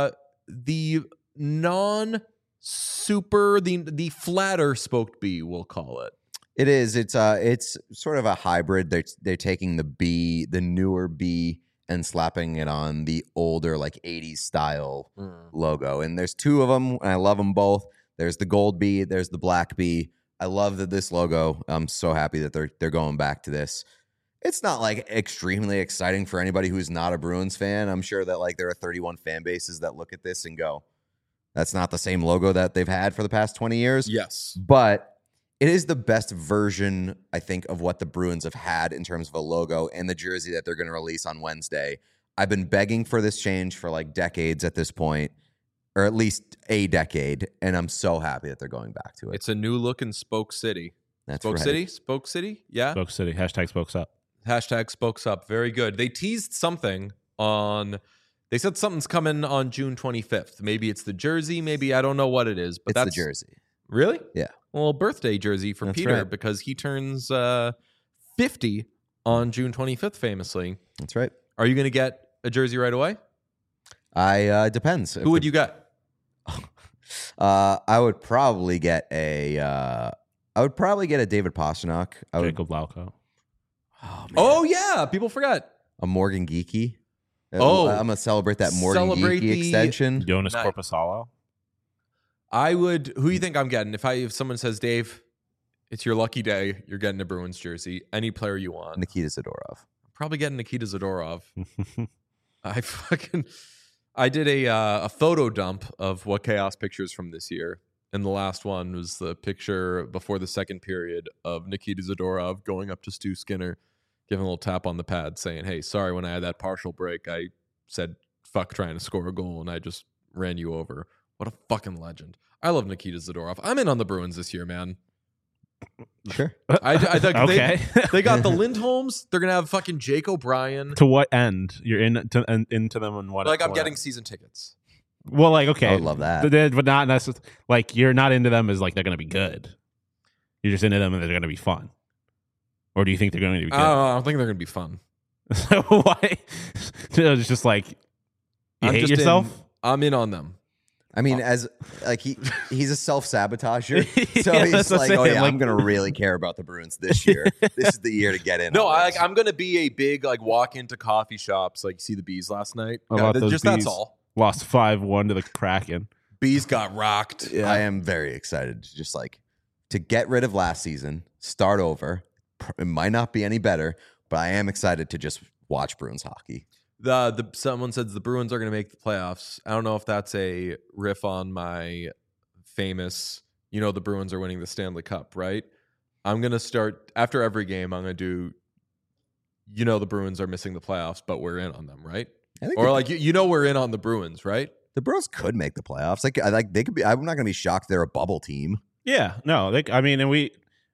non-super, the flatter spoked B, we'll call it. It is. It's sort of a hybrid. They're taking the newer B, and slapping it on the older like 80s style logo. And there's two of them, and I love them both. There's the gold B, there's the black B. I love that this logo. I'm so happy that they're going back to this. It's not like extremely exciting for anybody who's not a Bruins fan. I'm sure that like there are 31 fan bases that look at this and go, that's not the same logo that they've had for the past 20 years. Yes. But it is the best version, I think, of what the Bruins have had in terms of a logo and the jersey that they're going to release on Wednesday. I've been begging for this change for like decades at this point, or at least a decade, and I'm so happy that they're going back to it. It's a new look in Spoke City. That's Spoke right. City? Spoke City? Yeah. Spoke City. Hashtag Spokes Up. Hashtag Spokes Up. Very good. They teased something they said something's coming on June 25th. Maybe it's the jersey. Maybe I don't know what it is, but It's that's the jersey. Really? Yeah. Well, birthday jersey for That's Peter right. because he turns 50 on June 25th, famously. That's right. Are you going to get a jersey right away? Depends. Who would you get? I would probably get a David Pastrnak. Jacob Lauko. Oh, yeah. People forget. A Morgan Geekie. Oh. I'm gonna celebrate that Morgan Celebrate Geekie the- extension. Jonas Nice. Corposalo. I would. Who do you think I'm getting? If someone says, Dave, it's your lucky day, you're getting a Bruins jersey. Any player you want. Nikita Zadorov. Probably getting Nikita Zadorov. I did a photo dump of what Chaos pictures from this year. And the last one was the picture before the second period of Nikita Zadorov going up to Stu Skinner, giving a little tap on the pad saying, hey, sorry, when I had that partial break, I said, fuck trying to score a goal and I just ran you over. What a fucking legend. I love Nikita Zadorov. I'm in on the Bruins this year, man. Sure. I think Okay. they got the Lindholms. They're going to have fucking Jake O'Brien. To what end? You're into them and what? Like, I'm what getting end? season tickets. Well, like, okay. I would love that. But not necessarily. Like, you're not into them as like they're going to be good. You're just into them and they're going to be fun. Or do you think they're going to be good? I don't think they're going to be fun. So why? It's just like you I'm hate just yourself. I'm in on them. I mean, as like he's a self-sabotager, so Yeah, he's that's what like, I'm oh saying, yeah, like- I'm gonna really care about the Bruins this year. This is the year to get in. No, on this. I'm going to be a big like walk into coffee shops. Like, see the Bees last night. How about those Just Bees? that's all. Lost 5-1 to the Kraken. Bees got rocked. I am very excited to just like to get rid of last season, start over. It might not be any better, but I am excited to just watch Bruins hockey. Someone says the Bruins are going to make the playoffs. I don't know if that's a riff on my famous, the Bruins are winning the Stanley Cup, right? I'm going to start after every game. I'm going to do, the Bruins are missing the playoffs, but we're in on them, right? I think Or the, like, we're in on the Bruins, right? the Bruins could make the playoffs. Like they could be. I'm not gonna be shocked they're a bubble team. Yeah, no,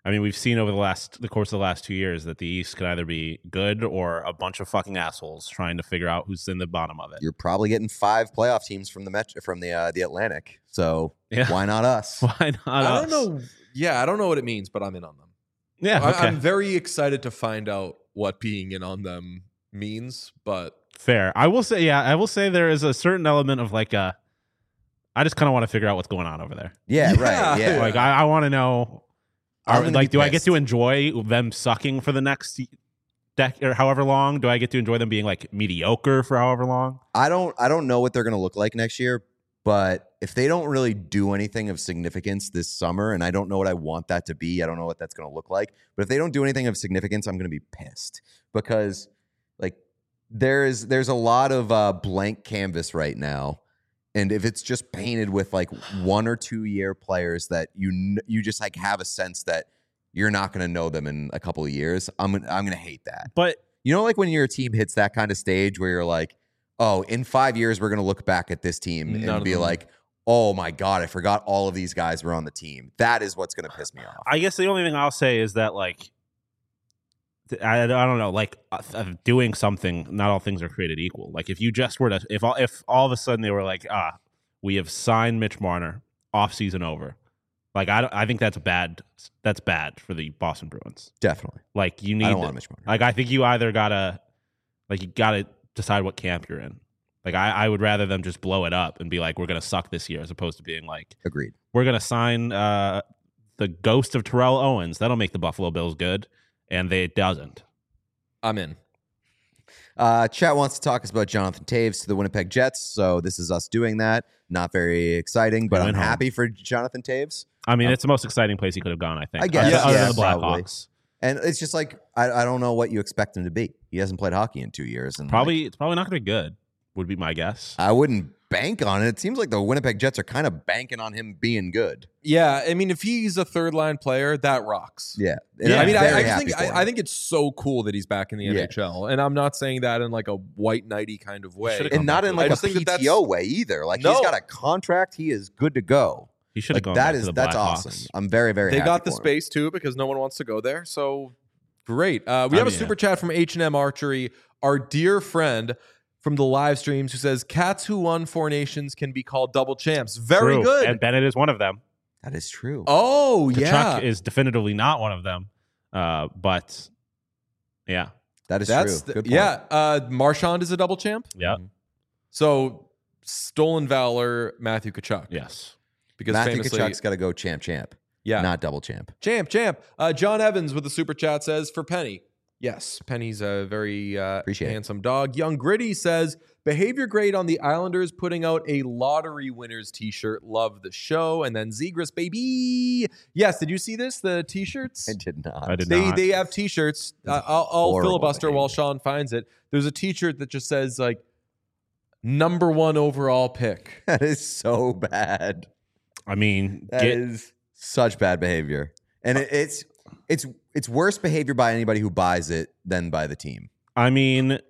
I mean, we've seen over the course of the last 2 years that the East could either be good or a bunch of fucking assholes trying to figure out who's in the bottom of it. You're probably getting 5 playoff teams from the Atlantic. So Yeah. why not us? Why not? I us? don't know. Yeah, I don't know what it means, but I'm in on them. Yeah, okay. I'm very excited to find out what being in on them means, but Fair. I will say there is a certain element of like I just kind of want to figure out what's going on over there. Yeah, Yeah. right. Yeah. Like I want to know. I'm gonna be Do I get pissed. to enjoy them sucking for the next decade or however long? Do I get to enjoy them being like mediocre for however long? I don't know what they're going to look like next year, but if they don't really do anything of significance this summer, and I don't know what I want that to be, I don't know what that's going to look like, but if they don't do anything of significance, I'm going to be pissed because like there's a lot of blank canvas right now. And if it's just painted with like 1 or 2 year players that you just like have a sense that you're not going to know them in a couple of years, I'm going to hate that. But You know, like when your team hits that kind of stage where you're like, oh, in 5 years, we're going to look back at this team None and of be them. like, oh my God, I forgot all of these guys were on the team. That is what's going to piss me off. I guess the only thing I'll say is that like I don't know, like doing something. Not all things are created equal. Like if you just were to, if all of a sudden they were like, we have signed Mitch Marner, off season over. Like I think that's bad. That's bad for the Boston Bruins. Definitely. Like you need. I don't want Mitch Marner. Like I think you either gotta decide what camp you're in. Like I would rather them just blow it up and be like, we're gonna suck this year, as opposed to being like, Agreed. we're gonna sign the ghost of Terrell Owens. That'll make the Buffalo Bills good, and it doesn't. I'm in. Chat wants to talk us about Jonathan Taves to the Winnipeg Jets, so this is us doing that. Not very exciting, but He I'm went home. happy for Jonathan Taves. I mean, it's the most exciting place he could have gone, I think. I guess, Other yeah, than the probably. Blackhawks. And it's just like I don't know what you expect him to be. He hasn't played hockey in 2 years, and It's probably not going to be good, would be my guess. I wouldn't bank on it. It seems like the Winnipeg Jets are kind of banking on him being good. Yeah, I mean, if he's a third line player, that rocks. Yeah, Yeah. I mean, I'm very I just happy think for him. I think it's so cool that he's back in the Yeah. NHL, and I'm not saying that in like a white knighty kind of way. should've and not in I like a just think that that's- PTO way either. Like No. he's got a contract. He is good to go. He should have Like gone that back is to the that's Blackhawks. awesome. I'm very very. They happy got the for him. space too because no one wants to go there. So great. We have mean, a super chat from H&M Archery, our dear friend from the live streams, who says cats who won 4 nations can be called double champs. Very True. good. And Bennett is one of them. That is true. Oh Kachuk yeah, is definitively not one of them. But yeah. That is that's true. Good point. yeah. Marchand is a double champ. Yeah. So stolen valor, Matthew Kachuk. Yes. Because Matthew famously, Kachuk's got to go champ, yeah, not double champ. champ. John Evans with the super chat says for Penny. Yes, Penny's a very Appreciate it. handsome dog. Young Gritty says behavior grade on the Islanders putting out a lottery winners T-shirt. Love the show. And then Zegras baby. Yes, did you see this? The T-shirts. I did not. I did not. They have T-shirts. I'll horrible filibuster while behavior. Sean finds it. There's a T-shirt that just says like number 1 overall pick. That is so bad. I mean, That is such bad behavior, and it's worse behavior by anybody who buys it than by the team. I mean,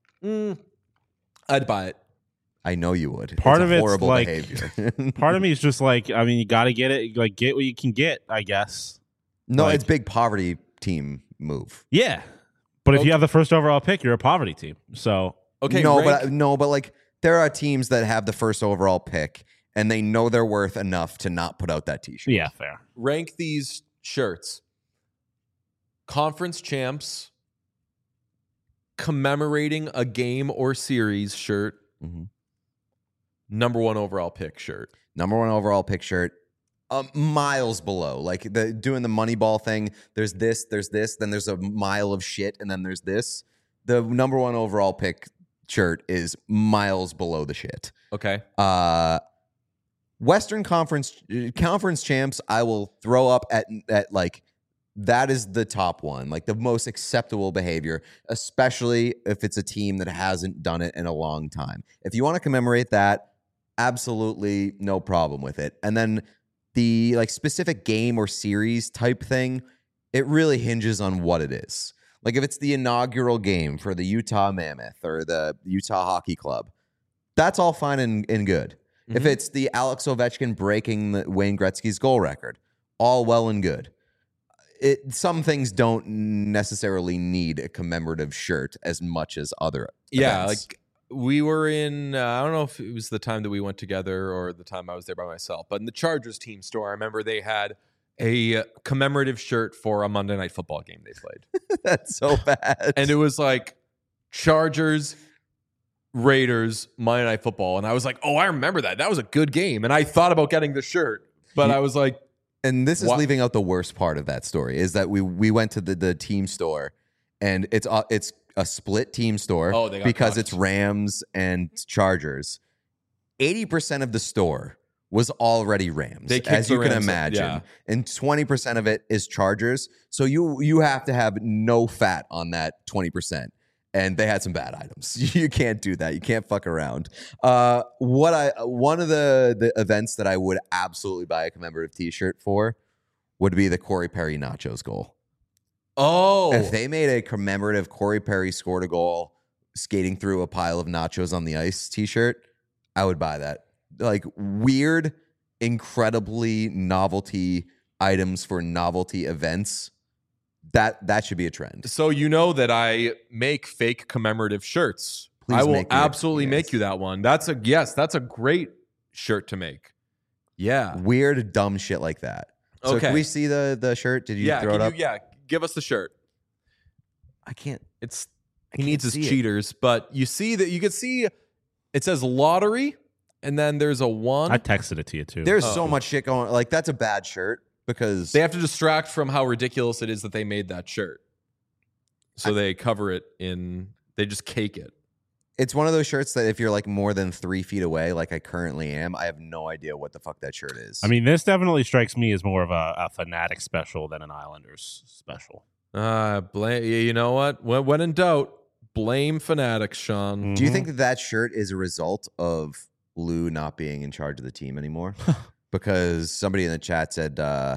I'd buy it. I know you would. Part It's of a it's horrible like- behavior. part of me is just like, I mean, you got to get it. Like, get what you can get, I guess. No, Like- it's big poverty team move. Yeah. But if you have the first overall pick, you're a poverty team. So, Okay, no, rank- but like there are teams that have the first overall pick and they know they're worth enough to not put out that T-shirt. yeah, fair. rank these shirts. Conference champs commemorating a game or series shirt. Mhm. Number 1 overall pick shirt. Number 1 overall pick shirt. Miles below, like doing the Moneyball thing. There's this, then there's a mile of shit, and then there's this. The number 1 overall pick shirt is miles below the shit. Okay. Western Conference champs, I will throw up at like that is the top one, like the most acceptable behavior, especially if it's a team that hasn't done it in a long time. If you want to commemorate that, absolutely no problem with it. And then the like specific game or series type thing, it really hinges on what it is. Like if it's the inaugural game for the Utah Mammoth or the Utah Hockey Club, that's all fine and good. If Mhm. it's the Alex Ovechkin breaking Wayne Gretzky's goal record, all well and good. some things don't necessarily need a commemorative shirt as much as other Yeah, events. like we were in, I don't know if it was the time that we went together or the time I was there by myself, but in the Chargers team store, I remember they had a commemorative shirt for a Monday Night Football game they played. That's so bad. And it was like Chargers, Raiders, Monday Night Football. And I was like, oh, I remember that. That was a good game. And I thought about getting the shirt, but I was like, And this is What? leaving out the worst part of that story is that we went to the team store, and it's a split team store Oh, they got because cucked. it's Rams and Chargers. 80% of the store was already Rams, They kicked as the you can Rams, imagine, yeah. and 20% of it is Chargers. So you have to have no fat on that 20%. And they had some bad items. You can't do that. You can't fuck around. One of the events that I would absolutely buy a commemorative T-shirt for would be the Corey Perry nachos goal. oh, If they made a commemorative Corey Perry scored a goal skating through a pile of nachos on the ice T-shirt, I would buy that. Like weird, incredibly novelty items for novelty events. That should be a trend. so you know that I make fake commemorative shirts. Please I will make me absolutely yes. make you that one. That's a great shirt to make. Yeah. Weird, dumb shit like that. So Okay. can we see the shirt? Did you Yeah, throw it up? give us the shirt. I can't. It's I he can't needs his see it. cheaters, but you see that you can see it says lottery, and then there's a one. I texted it to you too. There's Oh. so much shit going. Like that's a bad shirt because They have to distract from how ridiculous it is that they made that shirt. So they cover it in. They just cake it. it's one of those shirts that if you're like more than 3 feet away, like I currently am, I have no idea what the fuck that shirt is. I mean, this definitely strikes me as more of a Fanatic special than an Islanders special. Blame. You know what? When in doubt, blame fanatics, Sean. do you Mhm. think that shirt is a result of Lou not being in charge of the team anymore? Because somebody in the chat said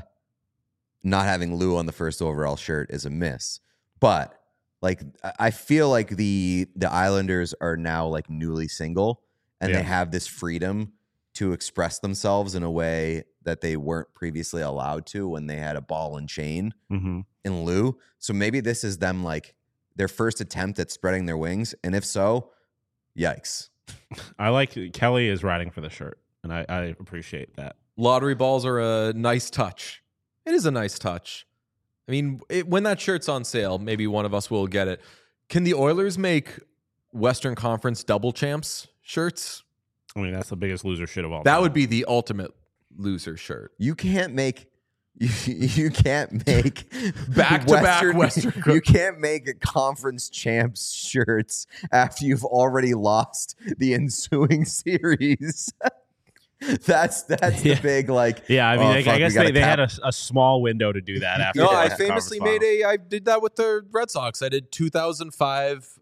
not having Lou on the first overall shirt is a miss. But like I feel like the Islanders are now like newly single and Yeah. they have this freedom to express themselves in a way that they weren't previously allowed to when they had a ball and chain Mm-hmm. in Lou. So maybe this is them like their first attempt at spreading their wings. And if so, yikes. I like Kelly is riding for the shirt, and I appreciate that. Lottery balls are a nice touch. It is a nice touch. I mean, when that shirt's on sale, maybe one of us will get it. Can the Oilers make Western Conference double champs shirts? I mean, that's the biggest loser shit of all. That time. would be the ultimate loser shirt. You can't make you can't make Back-to-back Western You can't make a conference champs shirts after you've already lost the ensuing series. that's Yeah. the big like. Yeah, I mean, oh, I fuck, we guess gotta they had cap- a small window to do that after. No, the I conference famously final. I did that with the Red Sox. I did 2005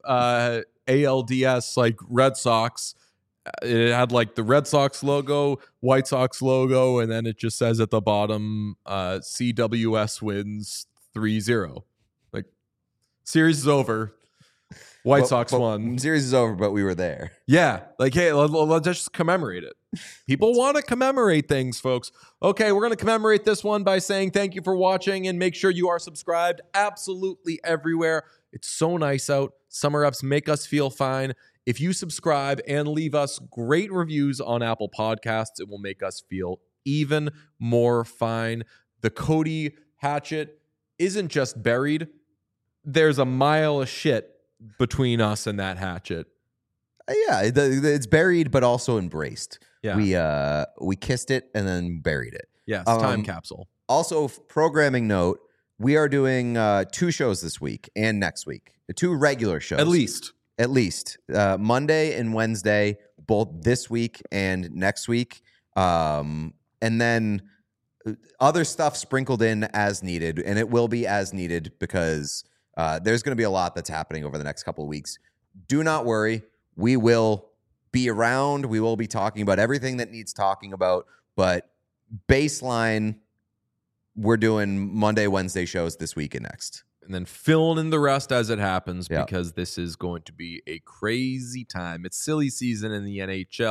ALDS like Red Sox. It had like the Red Sox logo, White Sox logo, and then it just says at the bottom, CWS wins 3-0. Like, series is over. White but- Sox but won. Series is over, but we were there. Yeah. Like, hey, let's just commemorate it. People want to commemorate things, folks. Okay, we're going to commemorate this one by saying thank you for watching and make sure you are subscribed absolutely everywhere. It's so nice out. Summer ups make us feel fine. If you subscribe and leave us great reviews on Apple Podcasts, it will make us feel even more fine. The Cody hatchet isn't just buried. There's a mile of shit between us and that hatchet. Yeah, it's buried but also embraced. Yeah. We kissed it and then buried it. Yes, time Um, capsule. Also, programming note: we are doing 2 shows this week and next week. 2 regular shows, At least Monday and Wednesday, both this week and next week, and then other stuff sprinkled in as needed, and it will be as needed because there's going to be a lot that's happening over the next couple of weeks. Do not worry, we will be around. We will be talking about everything that needs talking about, but baseline, we're doing Monday, Wednesday shows this week and next. And then filling in the rest as it happens Yeah. because this is going to be a crazy time. It's silly season in the NHL.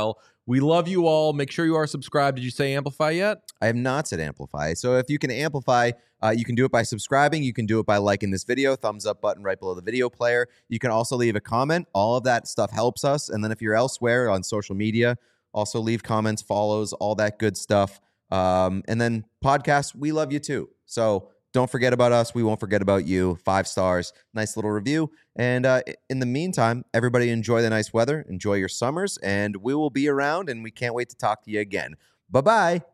We love you all. Make sure you are subscribed. Did you say Amplify yet? I have not said amplify. So if you can amplify, you can do it by subscribing. You can do it by liking this video, thumbs up button right below the video player. You can also leave a comment. All of that stuff helps us. And then if you're elsewhere on social media, also leave comments, follows, all that good stuff. And then podcasts, we love you too. So don't forget about us. We won't forget about you. 5 stars, nice little review. And in the meantime, everybody enjoy the nice weather. Enjoy your summers. And we will be around, and we can't wait to talk to you again. Bye-bye.